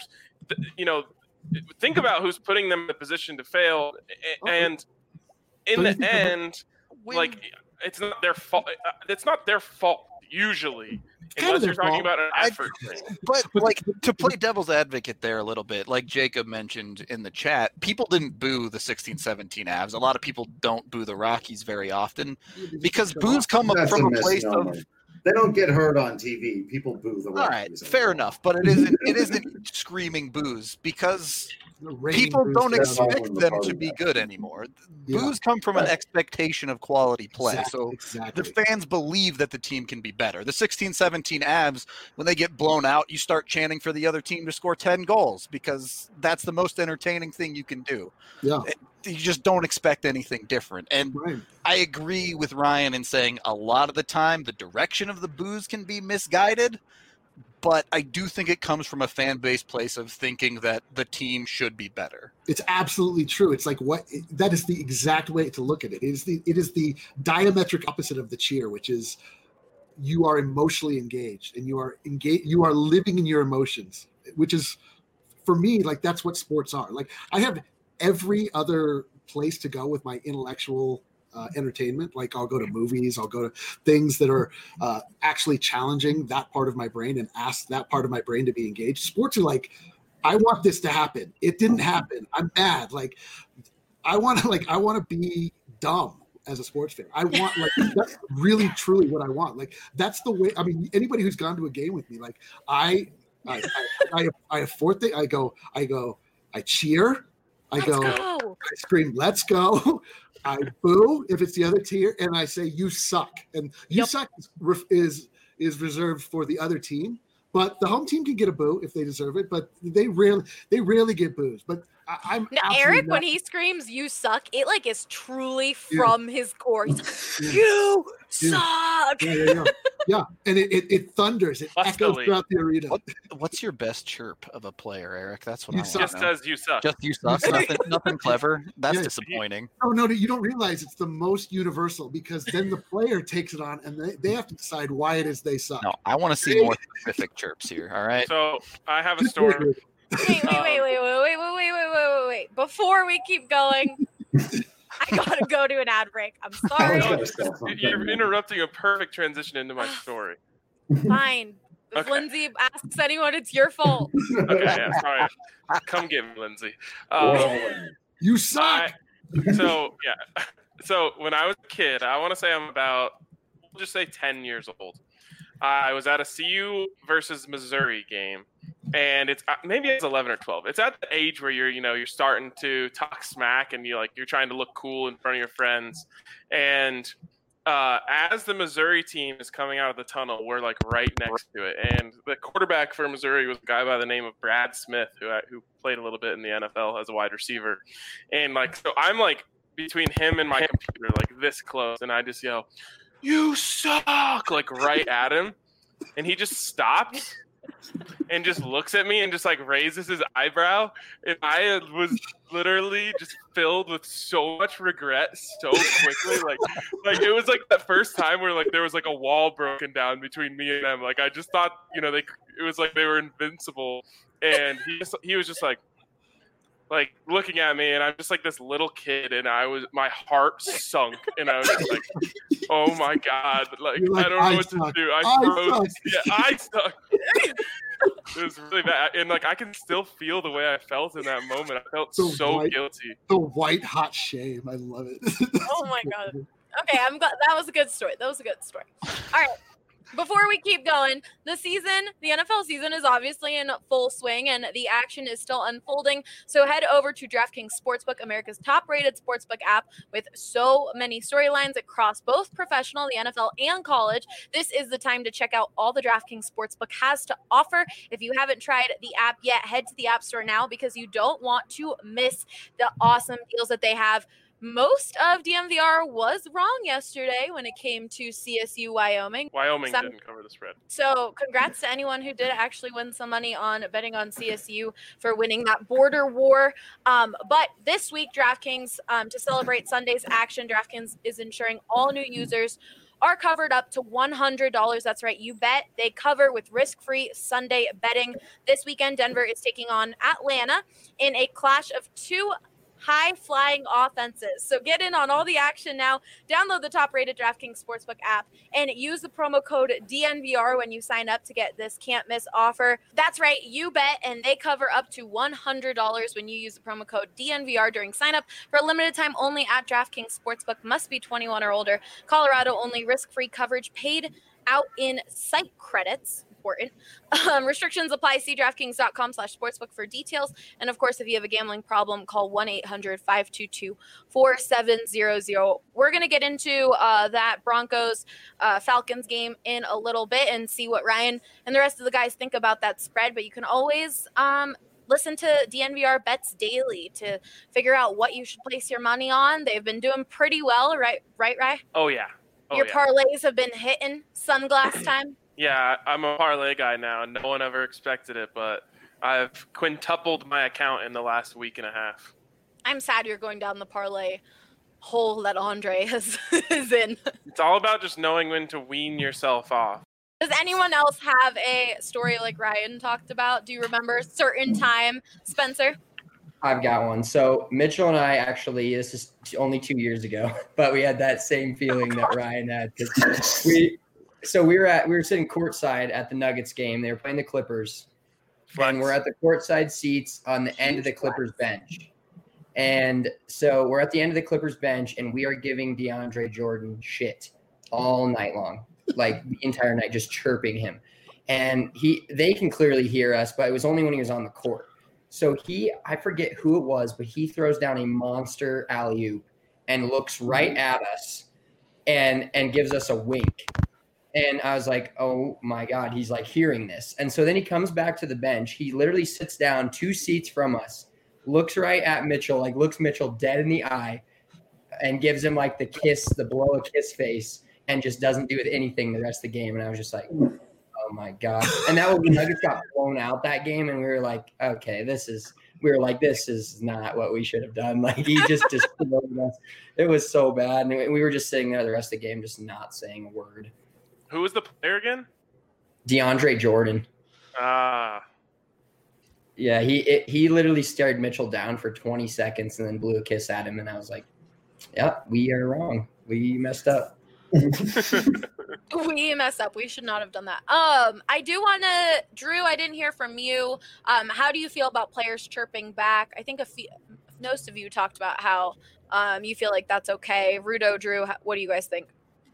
Think about who's putting them in a position to fail. And in the end, like, it's not their fault. It's not their fault usually. Unless you're talking about an effort thing.
But, like, to play devil's advocate there a little bit, like Jacob mentioned in the chat, people didn't boo the 16-17 Avs. A lot of people don't boo the Rockies very often because boos come up from a place of...
They don't get hurt on TV. People boo the Rockies.
All right, fair enough, but it isn't screaming boos because people don't expect them to be good anymore. Boos come from an expectation of quality play. The fans believe that the team can be better. The 16-17 Avs, when they get blown out, you start chanting for the other team to score 10 goals because that's the most entertaining thing you can do.
Yeah.
You just don't expect anything different. And I agree with Ryan in saying a lot of the time the direction of the boos can be misguided, but I do think it comes from a fan base place of thinking that the team should be better.
It's absolutely true. It's like that is the exact way to look at it. It is the diametric opposite of the cheer, which is you are emotionally engaged and you are living in your emotions, which is, for me, like that's what sports are. Like I have every other place to go with my intellectual entertainment. Like I'll go to movies, I'll go to things that are actually challenging that part of my brain and ask that part of my brain to be engaged. Sports are like, I want this to happen. It didn't happen. I'm mad. Like I want to be dumb as a sports fan. I want that's really truly what I want. Like that's the way. I mean, anybody who's gone to a game with me, like I have fourth thing. I cheer. I scream, let's go. I boo if it's the other tier, and I say, you suck. And you suck is reserved for the other team. But the home team can get a boo if they deserve it, but they rarely get boos. But I'm
now, Eric, when he screams "you suck," it like is truly from his core. He's like, "You suck."
Yeah, and it thunders. It echoes throughout the arena.
What's your best chirp of a player, Eric? That's what
I want to know. Just says "you suck."
Just "you suck." Nothing clever. That's disappointing.
No, you don't realize it's the most universal because then the player takes it on and they have to decide why it is they suck.
No, I want to see more specific chirps here. All right.
So I have a story.
Wait. Before we keep going, I gotta go to an ad break. I'm sorry.
You're interrupting a perfect transition into my story.
Fine. If Lindsay asks anyone, it's your fault.
Okay, yeah, sorry. Come get me, Lindsay.
You suck.
So when I was a kid, I want to say I'm about, we'll just say 10 years old. I was at a CU versus Missouri game, and it's maybe it's 11 or 12. It's at the age where you're starting to talk smack and you're trying to look cool in front of your friends. And as the Missouri team is coming out of the tunnel, we're like right next to it. And the quarterback for Missouri was a guy by the name of Brad Smith, who played a little bit in the NFL as a wide receiver. And so I'm like between him and my computer, like this close, and I just yell, "You suck!" like right at him, and he just stops and just looks at me and just like raises his eyebrow, and I was literally just filled with so much regret so quickly. like it was like that first time where like there was like a wall broken down between me and them. Like I just thought it was like they were invincible, and he was just like looking at me, and I'm just like this little kid, and my heart sunk, and I was just like, oh my God, like I don't know what to do. I froze. Yeah, I suck. It was really bad, and like I can still feel the way I felt in that moment. I felt so guilty.
The white hot shame. I love it.
Oh my God. Okay, I'm glad that was a good story. All right. Before we keep going, the NFL season is obviously in full swing and the action is still unfolding. So head over to DraftKings Sportsbook, America's top-rated sportsbook app with so many storylines across both professional, the NFL, and college. This is the time to check out all the DraftKings Sportsbook has to offer. If you haven't tried the app yet, head to the App Store now because you don't want to miss the awesome deals that they have. Most of DNVR was wrong yesterday when it came to CSU Wyoming.
Wyoming didn't cover the spread.
So congrats to anyone who did actually win some money on betting on CSU for winning that border war. But this week, DraftKings, to celebrate Sunday's action, DraftKings is ensuring all new users are covered up to $100. That's right. You bet. They cover with risk-free Sunday betting. This weekend, Denver is taking on Atlanta in a clash of two high-flying offenses. So get in on all the action now. Download the top-rated DraftKings Sportsbook app and use the promo code DNVR when you sign up to get this can't-miss offer. That's right, you bet, and they cover up to $100 when you use the promo code DNVR during sign-up. For a limited time only at DraftKings Sportsbook. Must be 21 or older. Colorado only. Risk-free coverage paid out in site credits. Important. Restrictions apply. See DraftKings.com/sportsbook for details. And of course, if you have a gambling problem, call 1-800-522-4700. We're going to get into that Broncos Falcons game in a little bit and see what Ryan and the rest of the guys think about that spread. But you can always listen to DNVR Bets Daily to figure out what you should place your money on. They've been doing pretty well, right, Ryan?
Oh, yeah.
Your parlays have been hitting sunglass time.
Yeah, I'm a parlay guy now, and no one ever expected it, but I've quintupled my account in the last week and a half.
I'm sad you're going down the parlay hole that Andre is in.
It's all about just knowing when to wean yourself off.
Does anyone else have a story like Ryan talked about? Do you remember a certain time, Spencer?
I've got one. So Mitchell and I actually, this is only 2 years ago, but we had that same feeling that Ryan had. We were sitting courtside at the Nuggets game. They were playing the Clippers, and we're at the courtside seats on the end of the Clippers bench. And so we're at the end of the Clippers bench, and we are giving DeAndre Jordan shit all night long, like the entire night, just chirping him. And they can clearly hear us, but it was only when he was on the court. So I forget who it was, but he throws down a monster alley-oop and looks right at us and gives us a wink. And I was like, oh my God, he's like hearing this. And so then he comes back to the bench. He literally sits down 2 seats from us, looks right at Mitchell, like looks Mitchell dead in the eye and gives him like the blow a kiss face, and just doesn't do anything the rest of the game. And I was just like, oh my God. And that was when Nuggets got blown out that game. And we were like, okay, this is not what we should have done. Like he just destroyed us. It was so bad. And we were just sitting there the rest of the game, just not saying a word.
Who was the player again?
DeAndre Jordan. Yeah, he literally stared Mitchell down for 20 seconds and then blew a kiss at him. And I was like, yeah, we are wrong. We messed up.
We messed up. We should not have done that. I do want to, Drew, I didn't hear from you. How do you feel about players chirping back? I think most of you talked about how you feel like that's okay. Rudo, Drew, what do you guys think?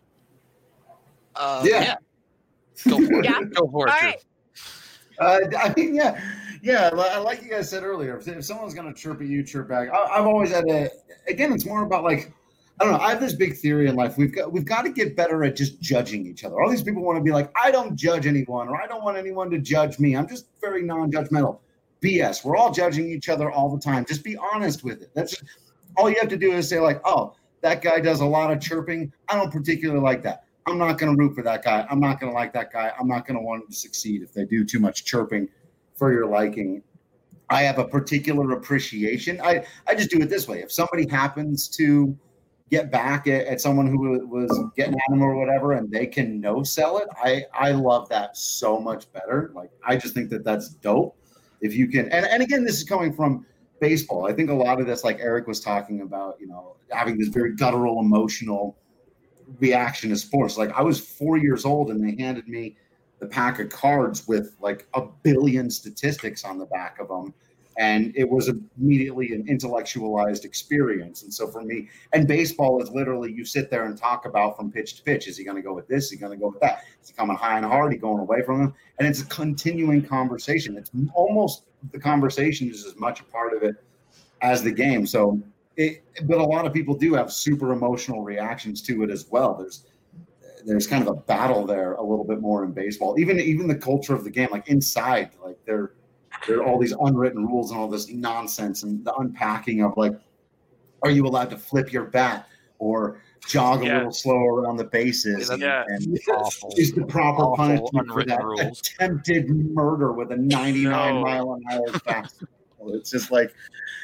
Yeah. Go for it.
Yeah?
Go for it,
All
Drew.
right.
I mean, yeah. Like you guys said earlier, if someone's going to chirp at you, chirp back. I've always had again, it's more about like, I don't know. I have this big theory in life. We've got to get better at just judging each other. All these people want to be like, I don't judge anyone, or I don't want anyone to judge me. I'm just very non-judgmental. BS. We're all judging each other all the time. Just be honest with it. That's just, all you have to do is say like, oh, that guy does a lot of chirping. I don't particularly like that. I'm not going to root for that guy. I'm not going to like that guy. I'm not going to want him to succeed if they do too much chirping for your liking. I have a particular appreciation. I just do it this way. If somebody happens to get back at someone who was getting at them or whatever, and they can no-sell it, I love that so much better. Like, I just think that that's dope. If you can, and again, this is coming from baseball. I think a lot of this, like Eric was talking about, having this very guttural, emotional reaction to sports. Like, I was 4 years old and they handed me the pack of cards with like 1 billion statistics on the back of them. And it was immediately an intellectualized experience. And so for me, and baseball is literally, you sit there and talk about from pitch to pitch. Is he going to go with this? Is he going to go with that? Is he coming high and hard? Is he going away from him? And it's a continuing conversation. It's almost, the conversation is as much a part of it as the game. So, but a lot of people do have super emotional reactions to it as well. There's kind of a battle there a little bit more in baseball. Even the culture of the game, like inside, like there are all these unwritten rules and all this nonsense, and the unpacking of like, are you allowed to flip your bat or jog a little slower around the bases? And is the proper punishment for that attempted murder with a 99 mile an hour fastball? It's just like,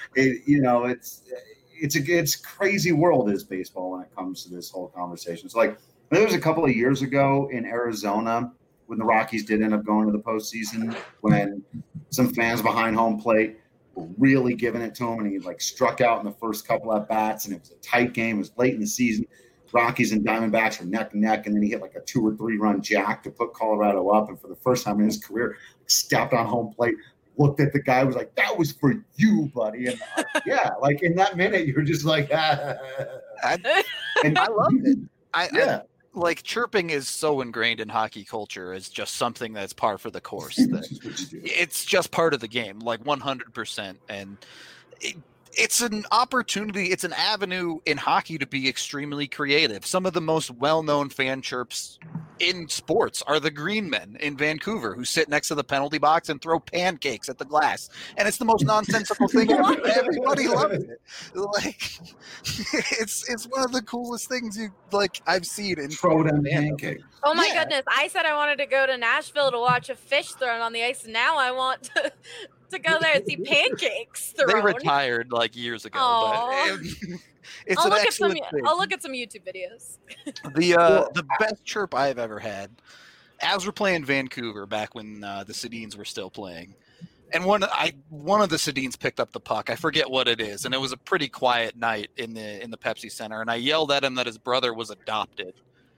it's a crazy world is baseball when it comes to this whole conversation. So like, there was a couple of years ago in Arizona when the Rockies did end up going to the postseason, when some fans behind home plate were really giving it to him, and he like struck out in the first couple at bats, and it was a tight game. It was late in the season. Rockies and Diamondbacks were neck and neck, and then he hit like a 2 or 3 run jack to put Colorado up. And for the first time in his career, stepped on home plate, looked at the guy, was like, "That was for you, buddy." And yeah, like in that minute, you're just like,
and I loved it. Like chirping is so ingrained in hockey culture as just something that's par for the course. It's just part of the game, like 100%. And it's an opportunity. It's an avenue in hockey to be extremely creative. Some of the most well-known fan chirps in sports are the Green Men in Vancouver, who sit next to the penalty box and throw pancakes at the glass. And it's the most nonsensical thing ever. Everybody loves it. Like, it's one of the coolest things I've seen in
throw down pancakes.
Oh my goodness. I said I wanted to go to Nashville to watch a fish thrown on the ice, and now I want to to go there and see pancakes
They
thrown.
retired like years ago,
Aw.
but it's an excellent thing.
I'll look at some YouTube videos.
The best chirp I've ever had, as we're playing Vancouver back when the Sedins were still playing, and one of the Sedins picked up the puck. I forget what it is, and it was a pretty quiet night in the Pepsi Center, and I yelled at him that his brother was adopted.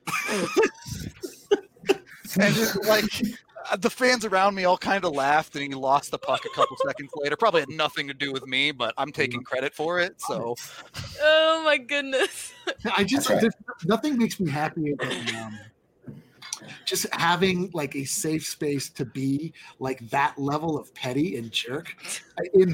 And just, like, the fans around me all kind of laughed, and he lost the puck a couple seconds later. Probably had nothing to do with me, but I'm taking credit for it. So,
Oh my goodness.
Nothing makes me happier than just having like a safe space to be like that level of petty and jerk in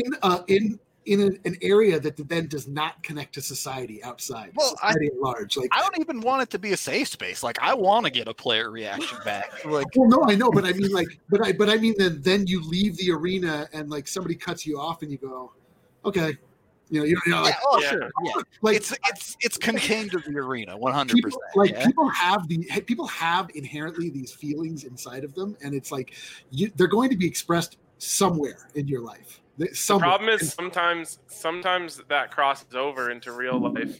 an area that then does not connect to society outside.
Well,
society at large. Like,
I don't even want it to be a safe space. Like, I want to get a player reaction back. Like,
well, no, I know, but I mean, like, but I mean, then you leave the arena and like somebody cuts you off, and you go, okay, you know, like,
sure, yeah.
Like
it's contained to the arena, 100%.
People have inherently these feelings inside of them, and it's like they're going to be expressed somewhere in your life.
The problem is sometimes that crosses over into real life.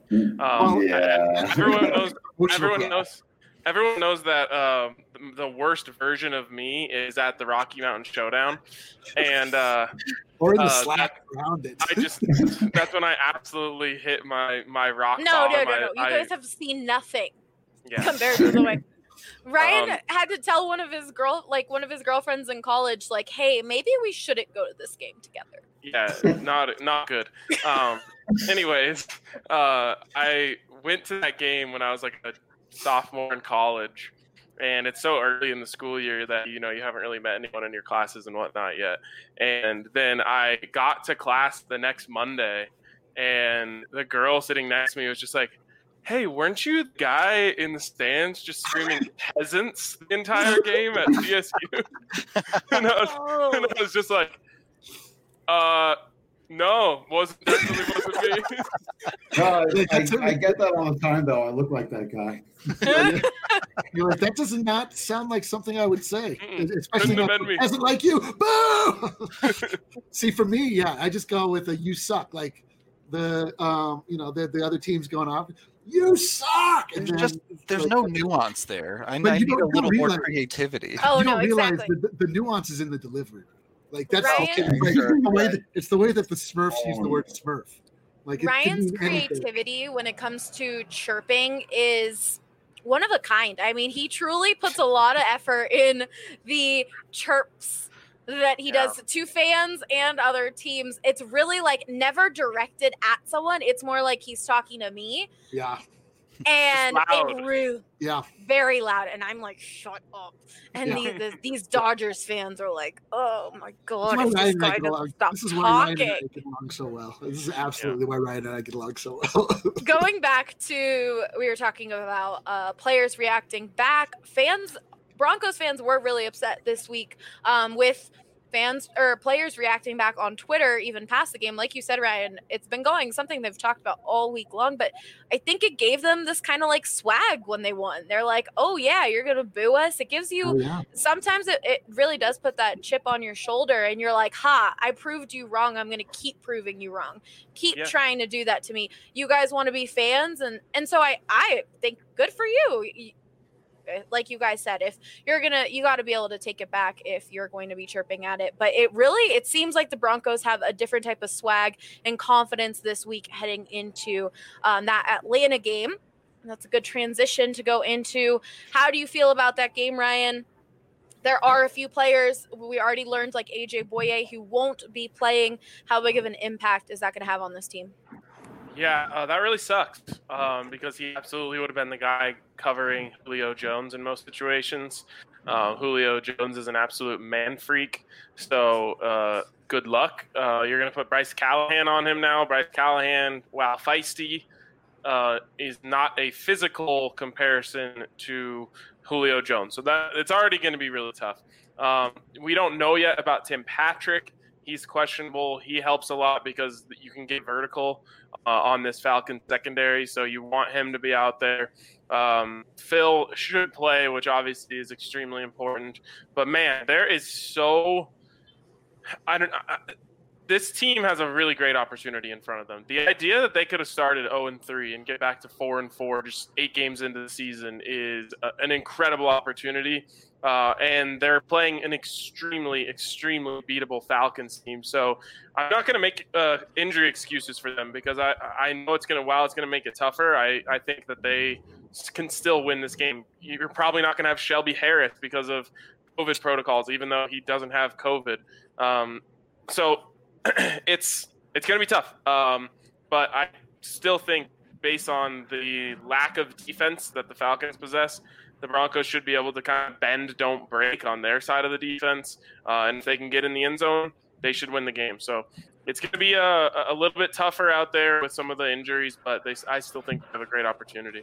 Everyone knows that the worst version of me is at the Rocky Mountain Showdown, and
or in the Slack around it.
That's when I absolutely hit my rock
No.
bottom.
You guys have seen nothing compared to the way. Ryan had to tell one of his girlfriends in college, like, "Hey, maybe we shouldn't go to this game together."
Yeah, not good. Anyways, I went to that game when I was like a sophomore in college, and it's so early in the school year that you haven't really met anyone in your classes and whatnot yet. And then I got to class the next Monday, and the girl sitting next to me was just like, "Hey, weren't you the guy in the stands just screaming peasants the entire game at CSU?" and I was just like, no, definitely wasn't me.
I get that all the time, though. I look like that guy.
You're like, that does not sound like something I would say, especially
Couldn't have been me.
Doesn't like you. Boo! See, for me, I just go with a "you suck." Like the other team's going off. You suck. And
there's no nuance there. I need a little more creativity.
Oh,
you
no,
don't realize
exactly.
the nuance is in the delivery. Like that's
Ryan,
it's the way that the Smurfs use the word Smurf. Like
Ryan's creativity when it comes to chirping is one of a kind. I mean, he truly puts a lot of effort in the chirps that he does to fans and other teams. It's really like never directed at someone. It's more like he's talking to me.
Yeah.
And it really, very loud. And I'm like, shut up. And these Dodgers fans are like, oh my God, if this guy doesn't stop talking.
Ryan and I get along so well. This is absolutely why Ryan and I get along so well.
Going back to, we were talking about players reacting back. Broncos fans were really upset this week with fans or players reacting back on Twitter, even past the game. Like you said, Ryan, it's been something they've talked about all week long, but I think it gave them this kind of like swag when they won. They're like, oh yeah, you're going to boo us. It gives you, sometimes it really does put that chip on your shoulder and you're like, I proved you wrong. I'm going to keep proving you wrong. Keep trying to do that to me. You guys want to be fans. And so I think good for you. Like you guys said, if you got to be able to take it back if you're going to be chirping at it. But it seems like the Broncos have a different type of swag and confidence this week heading into that Atlanta game. And that's a good transition to go into. How do you feel about that game, Ryan? There are a few players we already learned, like AJ Boye, who won't be playing. How big of an impact is that going to have on this team?
Yeah, that really sucks because he absolutely would have been the guy covering Julio Jones in most situations. Julio Jones is an absolute man freak, so good luck. You're going to put Bryce Callahan on him now. Bryce Callahan, while feisty, is not a physical comparison to Julio Jones. So it's already going to be really tough. We don't know yet about Tim Patrick. He's questionable. He helps a lot because you can get vertical on this Falcons secondary, so you want him to be out there. Phil should play, which obviously is extremely important. But, man, there is so This team has a really great opportunity in front of them. The idea that they could have started 0-3 and get back to 4-4 just 8 games into the season is an incredible opportunity. And they're playing an extremely, extremely beatable Falcons team. So I'm not going to make injury excuses for them because I know it's going to make it tougher. I think that they can still win this game. You're probably not going to have Shelby Harris because of COVID protocols, even though he doesn't have COVID. So it's going to be tough. But I still think based on the lack of defense that the Falcons possess, the Broncos should be able to kind of bend, don't break on their side of the defense. And if they can get in the end zone, they should win the game. So it's going to be a little bit tougher out there with some of the injuries, but I still think they have a great opportunity.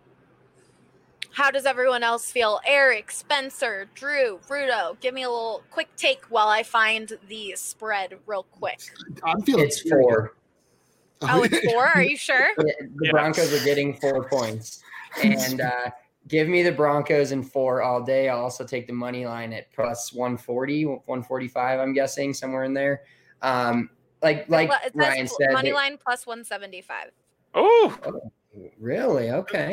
How does everyone else feel? Eric, Spencer, Drew, Rudo, give me a little quick take while I find the spread real quick.
I'm feeling
It's 4.
Oh, it's 4? Are you sure?
The Broncos are getting 4 points. And give me the Broncos in 4 all day. I'll also take the money line at plus 140, 145, I'm guessing, somewhere in there. Like Ryan said.
Money line plus 175.
Oh,
really? Okay.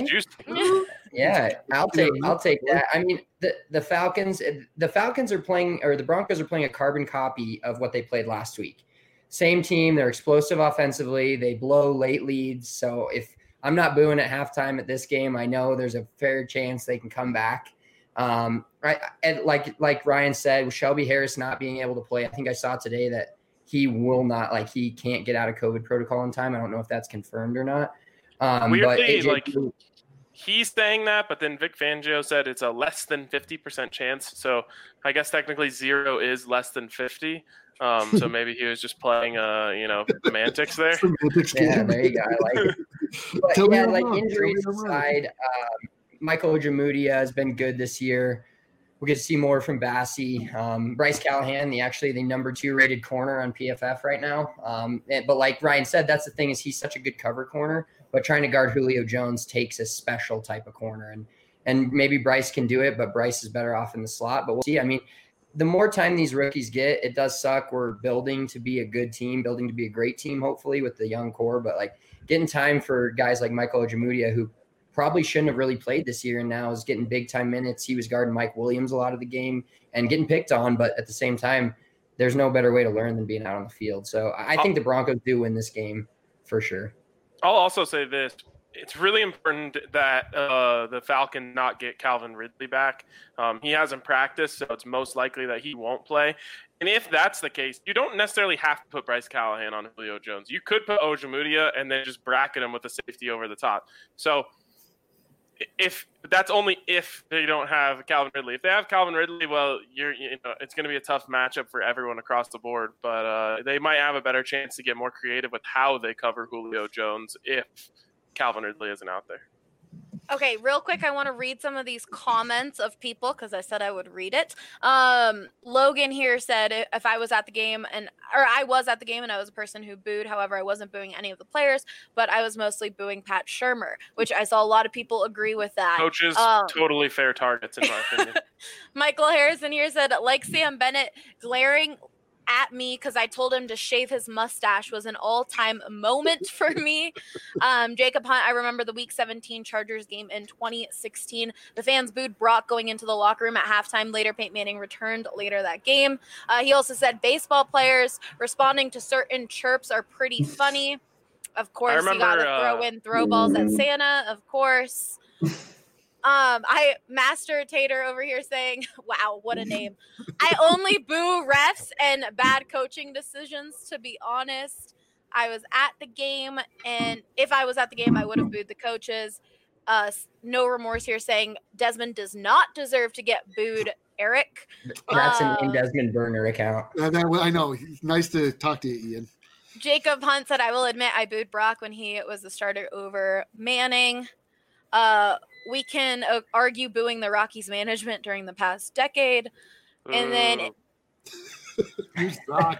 Yeah, I'll take that. I mean, the Falcons are playing, or the Broncos are playing a carbon copy of what they played last week. Same team. They're explosive offensively. They blow late leads. So if I'm not booing at halftime at this game, I know there's a fair chance they can come back. Right. And like Ryan said, with Shelby Harris not being able to play, I think I saw today that he will not, he can't get out of COVID protocol in time. I don't know if that's confirmed or not.
Weirdly, he's saying that, but then Vic Fangio said it's a less than 50% chance. So I guess technically 0 is less than 50. So maybe he was just playing, semantics there.
Yeah, there you go. I like it. But yeah, injuries aside, Michael Ojemudia has been good this year. We'll get to see more from Bassie. Bryce Callahan, the number 2 rated corner on PFF right now. But like Ryan said, that's the thing is he's such a good cover corner. But trying to guard Julio Jones takes a special type of corner. And maybe Bryce can do it, but Bryce is better off in the slot. But we'll see. I mean, the more time these rookies get, it does suck. We're building to be a good team, building to be a great team, hopefully, with the young core. But, getting time for guys like Michael Ojemudia, who probably shouldn't have really played this year and now is getting big-time minutes. He was guarding Mike Williams a lot of the game and getting picked on. But at the same time, there's no better way to learn than being out on the field. So I think the Broncos do win this game for sure.
I'll also say this. It's really important that the Falcon not get Calvin Ridley back. He hasn't practiced, so it's most likely that he won't play. And if that's the case, you don't necessarily have to put Bryce Callahan on Julio Jones. You could put Ojemudia and then just bracket him with a safety over the top. So that's only if they don't have Calvin Ridley. If they have Calvin Ridley, well, it's going to be a tough matchup for everyone across the board. But they might have a better chance to get more creative with how they cover Julio Jones if Calvin Ridley isn't out there.
Okay, real quick, I want to read some of these comments of people because I said I would read it. Logan here said if I was at the game I was at the game and I was a person who booed. However, I wasn't booing any of the players, but I was mostly booing Pat Shurmur, which I saw a lot of people agree with that.
Coaches, totally fair targets in my opinion. Michael
Harrison here said, like Sam Bennett, glaring at me because I told him to shave his mustache was an all-time moment for me. Jacob Hunt, I remember the Week 17 Chargers game in 2016. The fans booed Brock going into the locker room at halftime. Later, Peyton Manning returned later that game. He also said baseball players responding to certain chirps are pretty funny. Of course, you got to throw in throw balls at Santa, of course. Master Tater over here saying, wow, what a name. I only boo refs and bad coaching decisions, to be honest. I was at the game, and if I was at the game, I would have booed the coaches. No remorse here saying Desmond does not deserve to get booed, Eric.
That's an Desmond Burner account.
I know. Nice to talk to you, Ian.
Jacob Hunt said, I will admit I booed Brock when he was the starter over Manning. We can argue booing the Rockies management during the past decade. And then
you suck.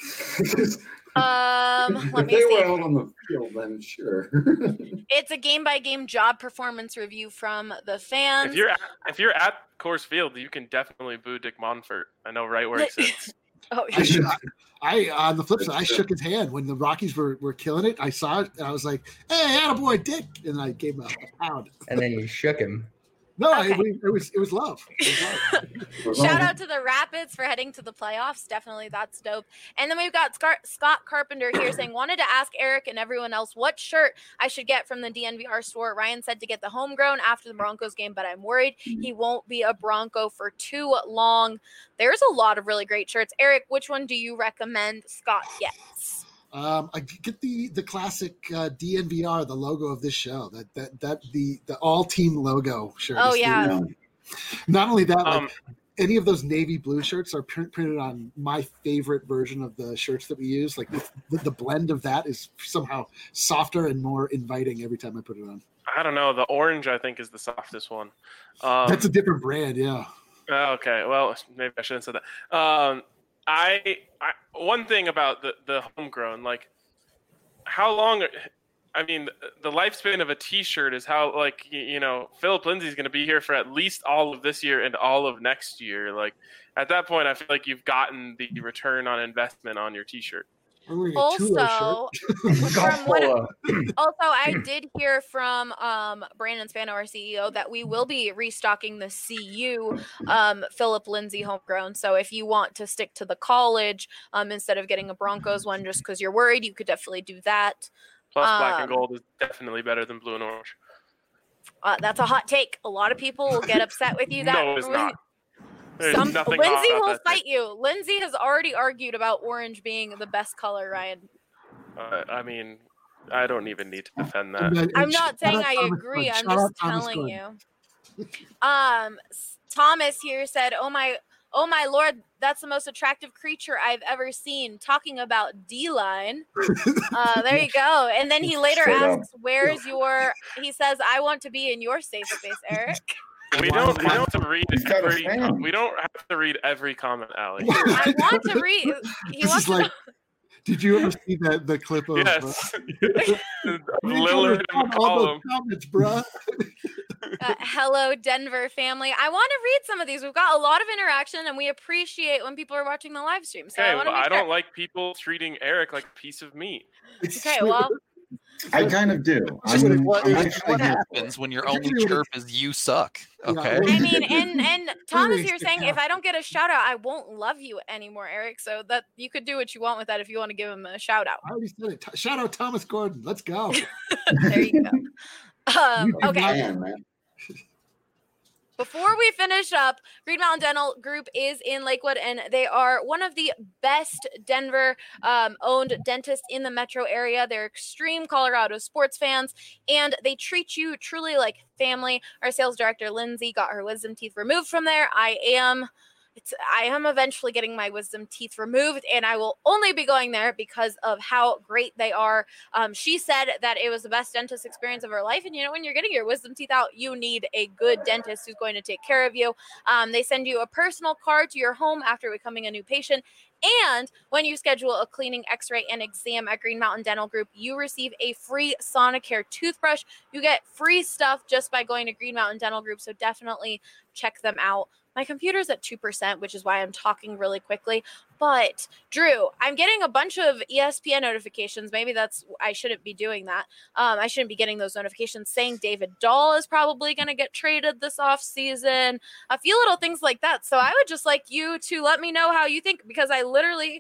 Let me
they
see.
were out on the field, then sure.
It's a game-by-game job performance review from the fans.
If you're at Coors Field, you can definitely boo Dick Monfort. I know right where he sits.
Oh,
on the flip side, I shook his hand when the Rockies were killing it. I saw it and I was like, "Hey, attaboy, Dick!" And I gave him a pound.
And then you shook him.
No,
Okay.
it was love.
Shout out to the Rapids for heading to the playoffs. Definitely, that's dope. And then we've got Scott Carpenter here saying, wanted to ask Eric and everyone else what shirt I should get from the DNVR store. Ryan said to get the homegrown after the Broncos game, but I'm worried he won't be a Bronco for too long. There's a lot of really great shirts. Eric, which one do you recommend Scott gets?
I get the classic DNVR, the logo of this show. The all team logo shirt.
Oh yeah.
Not only that, like any of those navy blue shirts are printed on my favorite version of the shirts that we use. Like the blend of that is somehow softer and more inviting every time I put it on.
I don't know. The orange, I think, is the softest one.
That's a different brand, yeah.
Okay, well, maybe I shouldn't have said that. I one thing about the homegrown, like, how long? I mean, the lifespan of a T-shirt is how, like, Philip Lindsay's going to be here for at least all of this year and all of next year. Like, at that point, I feel like you've gotten the return on investment on your T-shirt.
Also, I did hear from Brandon Spano, our CEO, that we will be restocking the CU Philip Lindsay homegrown. So if you want to stick to the college instead of getting a Broncos one just because you're worried, you could definitely do that.
Plus, black and gold is definitely better than blue and orange.
That's a hot take. A lot of people will get upset with you.
No, it's not.
Lindsay will fight you. Lindsay has already argued about orange being the best color, Ryan.
I mean, I don't even need to defend that.
I'm not saying I agree. I'm just telling you. Thomas here said, "Oh my Lord, that's the most attractive creature I've ever seen." Talking about D-line. There you go. And then he later asks, "Where's your?" He says, "I want to be in your safe space, Eric."
We don't have to read every comment, Allie.
I want to read. He wants to know.
Did you ever see the clip of
yes. Lillard in the column.
Comments, bro.
Hello, Denver family. I want to read some of these. We've got a lot of interaction, and we appreciate when people are watching the live stream. So I don't
like people treating Eric like a piece of meat.
Okay, well.
I kind of do.
What happens when your only chirp is "you suck"? Okay.
I mean, and Thomas here saying, if I don't get a shout out, I won't love you anymore, Eric. So that you could do what you want with that if you want to give him a shout out.
I already said it. Shout out Thomas Gordon. Let's go.
There you go. Okay. Before we finish up, Green Mountain Dental Group is in Lakewood, and they are one of the best Denver owned dentists in the metro area. They're extreme Colorado sports fans, and they treat you truly like family. Our sales director, Lindsay, got her wisdom teeth removed from there. I am eventually getting my wisdom teeth removed, and I will only be going there because of how great they are. She said that it was the best dentist experience of her life. And when you're getting your wisdom teeth out, you need a good dentist who's going to take care of you. They send you a personal card to your home after becoming a new patient. And when you schedule a cleaning, x-ray, and exam at Green Mountain Dental Group, you receive a free Sonicare toothbrush. You get free stuff just by going to Green Mountain Dental Group. So definitely check them out. My computer's at 2%, which is why I'm talking really quickly. But Drew, I'm getting a bunch of ESPN notifications. Maybe I shouldn't be doing that. I shouldn't be getting those notifications saying David Dahl is probably going to get traded this offseason. A few little things like that. So I would just like you to let me know how you think, because I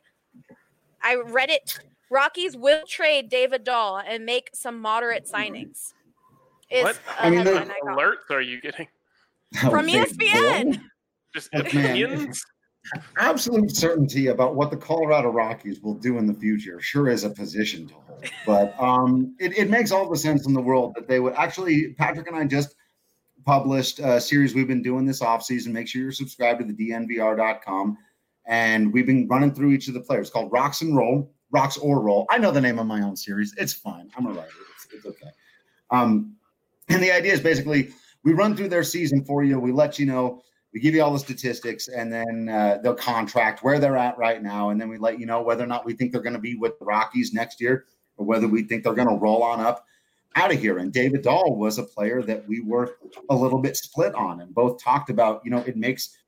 read it. Rockies will trade David Dahl and make some moderate signings.
What alerts are you getting?
From ESPN.
Just opinions?
Absolute certainty about what the Colorado Rockies will do in the future sure is a position to hold. But it makes all the sense in the world that they would actually, Patrick and I just published a series we've been doing this offseason. Make sure you're subscribed to the DNVR.com. And we've been running through each of the players called Rocks or Roll. I know the name of my own series. It's fine. I'm a writer. It's okay. And the idea is basically we run through their season for you. We let you know. We give you all the statistics, and then they'll contract where they're at right now. And then we let you know whether or not we think they're going to be with the Rockies next year or whether we think they're going to roll on up out of here. And David Dahl was a player that we were a little bit split on and both talked about, it makes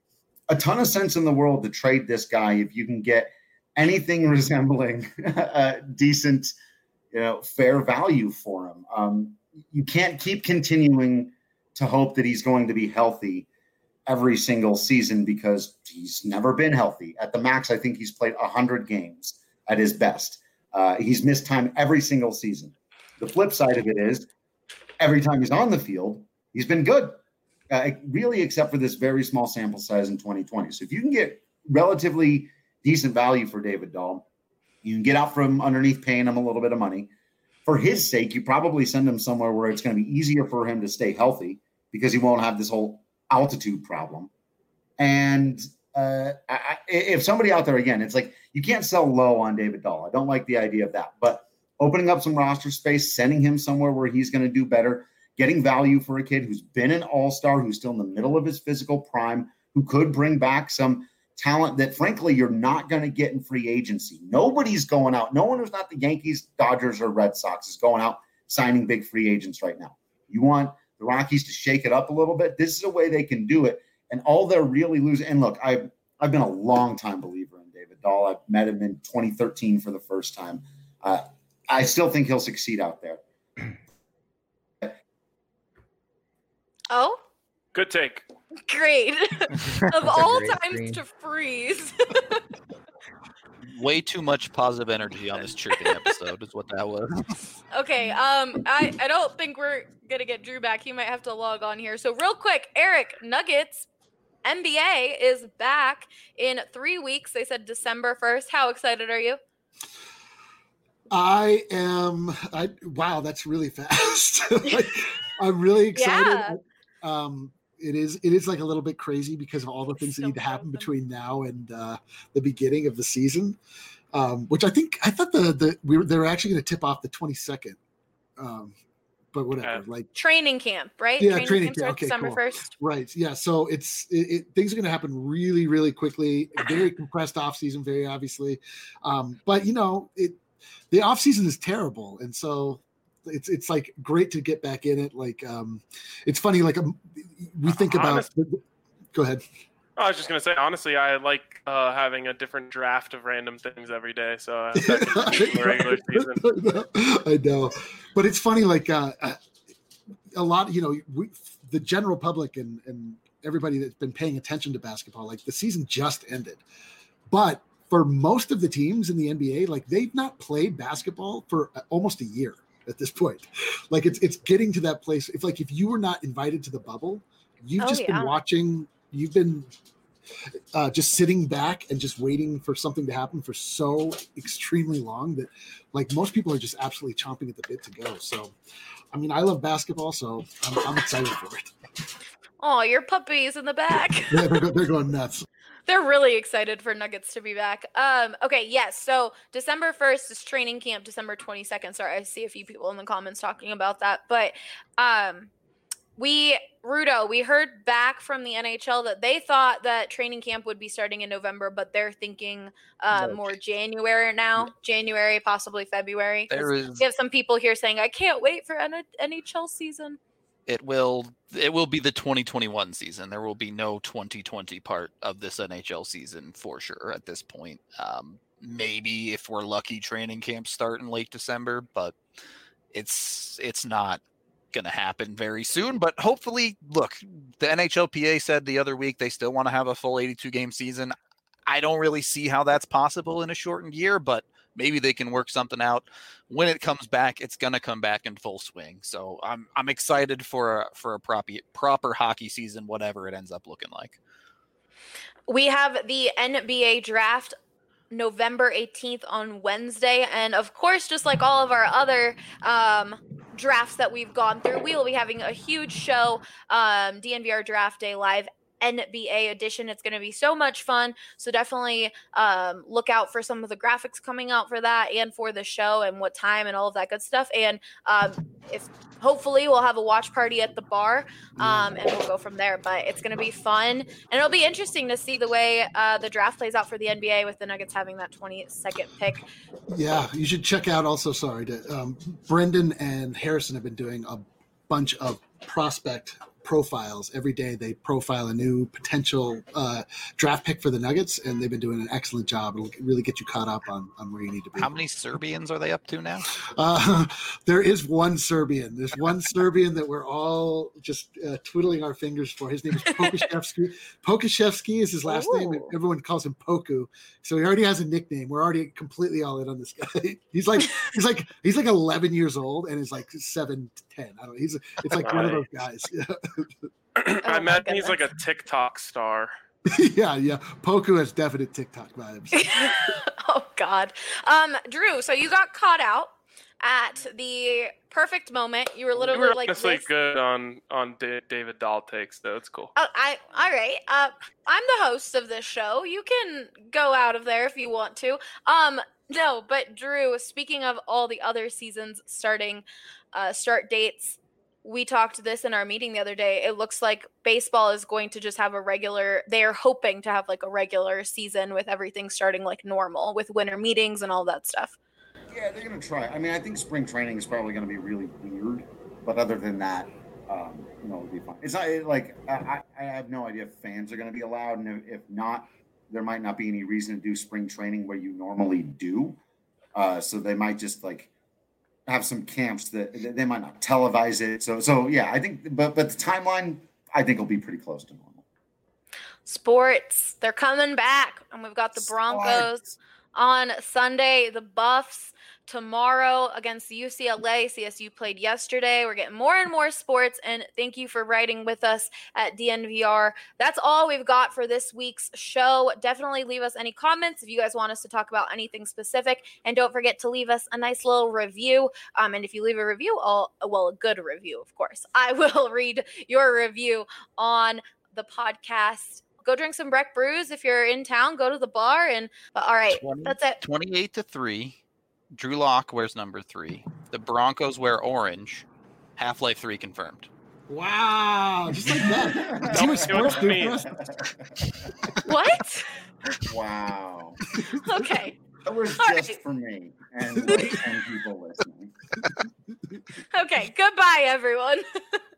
a ton of sense in the world to trade this guy if you can get anything resembling a decent, fair value for him. You can't keep continuing to hope that he's going to be healthy every single season because he's never been healthy. At the max, I think he's played 100 games at his best. He's missed time every single season. The flip side of it is every time he's on the field, he's been good, really, except for this very small sample size in 2020. So if you can get relatively decent value for David Dahl, you can get out from underneath paying him a little bit of money. For his sake, you probably send him somewhere where it's going to be easier for him to stay healthy because he won't have this whole altitude problem. And if somebody out there, again, it's like you can't sell low on David Dahl. I don't like the idea of that. But opening up some roster space, sending him somewhere where he's going to do better, getting value for a kid who's been an all-star, who's still in the middle of his physical prime, who could bring back some talent that, frankly, you're not going to get in free agency. Nobody's going out. No one who's not the Yankees, Dodgers, or Red Sox is going out signing big free agents right now. You want the Rockies to shake it up a little bit. This is a way they can do it. And all they're really losing. And look, I've been a long-time believer in David Dahl. I've met him in 2013 for the first time. I still think he'll succeed out there.
Oh?
Good take.
Great. Of all times to freeze.
Way too much positive energy on this chirping episode is what that was.
Okay, I don't think we're going to get Drew back. He might have to log on here. So real quick, Eric, Nuggets NBA is back in 3 weeks. They said December 1st. How excited are you?
Wow, that's really fast. I'm really excited.
Yeah.
It is like a little bit crazy because of all the things that need to happen between now and the beginning of the season, which I thought they were actually going to tip off the 22nd, but whatever. Like
training camp, right?
Yeah,
training camp.
Okay,
December
cool.
1st.
Right. Yeah. So things are going to happen really, really quickly. A very compressed off season, very obviously, but the off season is terrible, and so. It's like great to get back in it. Like it's funny. Like we think about. Go ahead.
I was just gonna say, honestly, I like having a different draft of random things every day. So the regular season.
I know, but it's funny. Like a lot, the general public and everybody that's been paying attention to basketball, like the season just ended, but for most of the teams in the NBA, like they've not played basketball for almost a year. At this point, like it's getting to that place. If you were not invited to the bubble, you've been watching, you've been just sitting back and just waiting for something to happen for so extremely long that like most people are just absolutely chomping at the bit to go. So, I mean, I love basketball, so I'm excited for it.
Oh, your puppy's in the back.
Yeah, they're going nuts.
They're really excited for Nuggets to be back. Okay, yes. So December 1st is training camp. December 22nd. Sorry, I see a few people in the comments talking about that. But we heard back from the NHL that they thought that training camp would be starting in November, but they're thinking more January now. January, possibly February. We have some people here saying, I can't wait for NHL season.
It will be the 2021 season. There will be no 2020 part of this NHL season for sure at this point. Maybe if we're lucky, training camps start in late December, but it's not going to happen very soon. But hopefully, look, the NHLPA said the other week they still want to have a full 82-game season. I don't really see how that's possible in a shortened year, but maybe they can work something out. When it comes back, it's going to come back in full swing. So I'm excited for a proper hockey season, whatever it ends up looking like.
We have the NBA draft November 18th on Wednesday. And of course, just like all of our other drafts that we've gone through, we will be having a huge show, DNVR Draft Day Live NBA edition. It's going to be so much fun. So definitely look out for some of the graphics coming out for that and for the show and what time and all of that good stuff. And if hopefully we'll have a watch party at the bar and we'll go from there. But it's going to be fun. And it'll be interesting to see the way the draft plays out for the NBA with the Nuggets having that 22nd pick.
Yeah, you should check out also, Brendan and Harrison have been doing a bunch of prospect profiles every day. They profile a new potential draft pick for the Nuggets, and they've been doing an excellent job. It'll really get you caught up on where you need to be.
How many Serbians are they up to now?
There is one Serbian. There's one Serbian that we're all just twiddling our fingers for. His name is Pokuševski. Pokuševski is his last name. And everyone calls him Poku. So he already has a nickname. We're already completely all in on this guy. He's like 11 years old and is like 7 to 10. I don't know. It's like one of those guys.
I imagine he's like a TikTok star.
yeah. Poku has definite TikTok vibes.
Oh God. Drew, so you got caught out at the perfect moment. You were literally like
honestly
this.
Good on David Dahl takes though. It's cool.
Oh, all right. I'm the host of this show. You can go out of there if you want to. No, but Drew, speaking of all the other seasons starting start dates, we talked this in our meeting the other day. It looks like baseball is going to just have they're hoping to have like a regular season with everything starting like normal with winter meetings and all that stuff.
Yeah, they're going to try. I mean, I think spring training is probably going to be really weird, but other than that, it'll be fine. It's not like I have no idea if fans are going to be allowed, and if not, there might not be any reason to do spring training where you normally do. So they might just like have some camps that they might not televise it. So yeah, I think, but the timeline I think will be pretty close to normal.
Sports, they're coming back, and we've got the Broncos on Sunday, the Buffs tomorrow against the UCLA. CSU played yesterday. We're getting more and more sports, and thank you for writing with us at DNVR. That's all we've got for this week's show. Definitely leave us any comments if you guys want us to talk about anything specific, and don't forget to leave us a nice little review. And if you leave a review, a good review, of course, I will read your review on the podcast. Go drink some Breck Brews. If you're in town, go to the bar. And all right, that's it.
28-3. Drew Lock wears number 3. The Broncos wear orange. Half-Life 3 confirmed.
Wow, just like that. Team of sports do for us.
What?
Wow.
Okay.
That was just for me and 10 people listening.
Okay. Goodbye, everyone.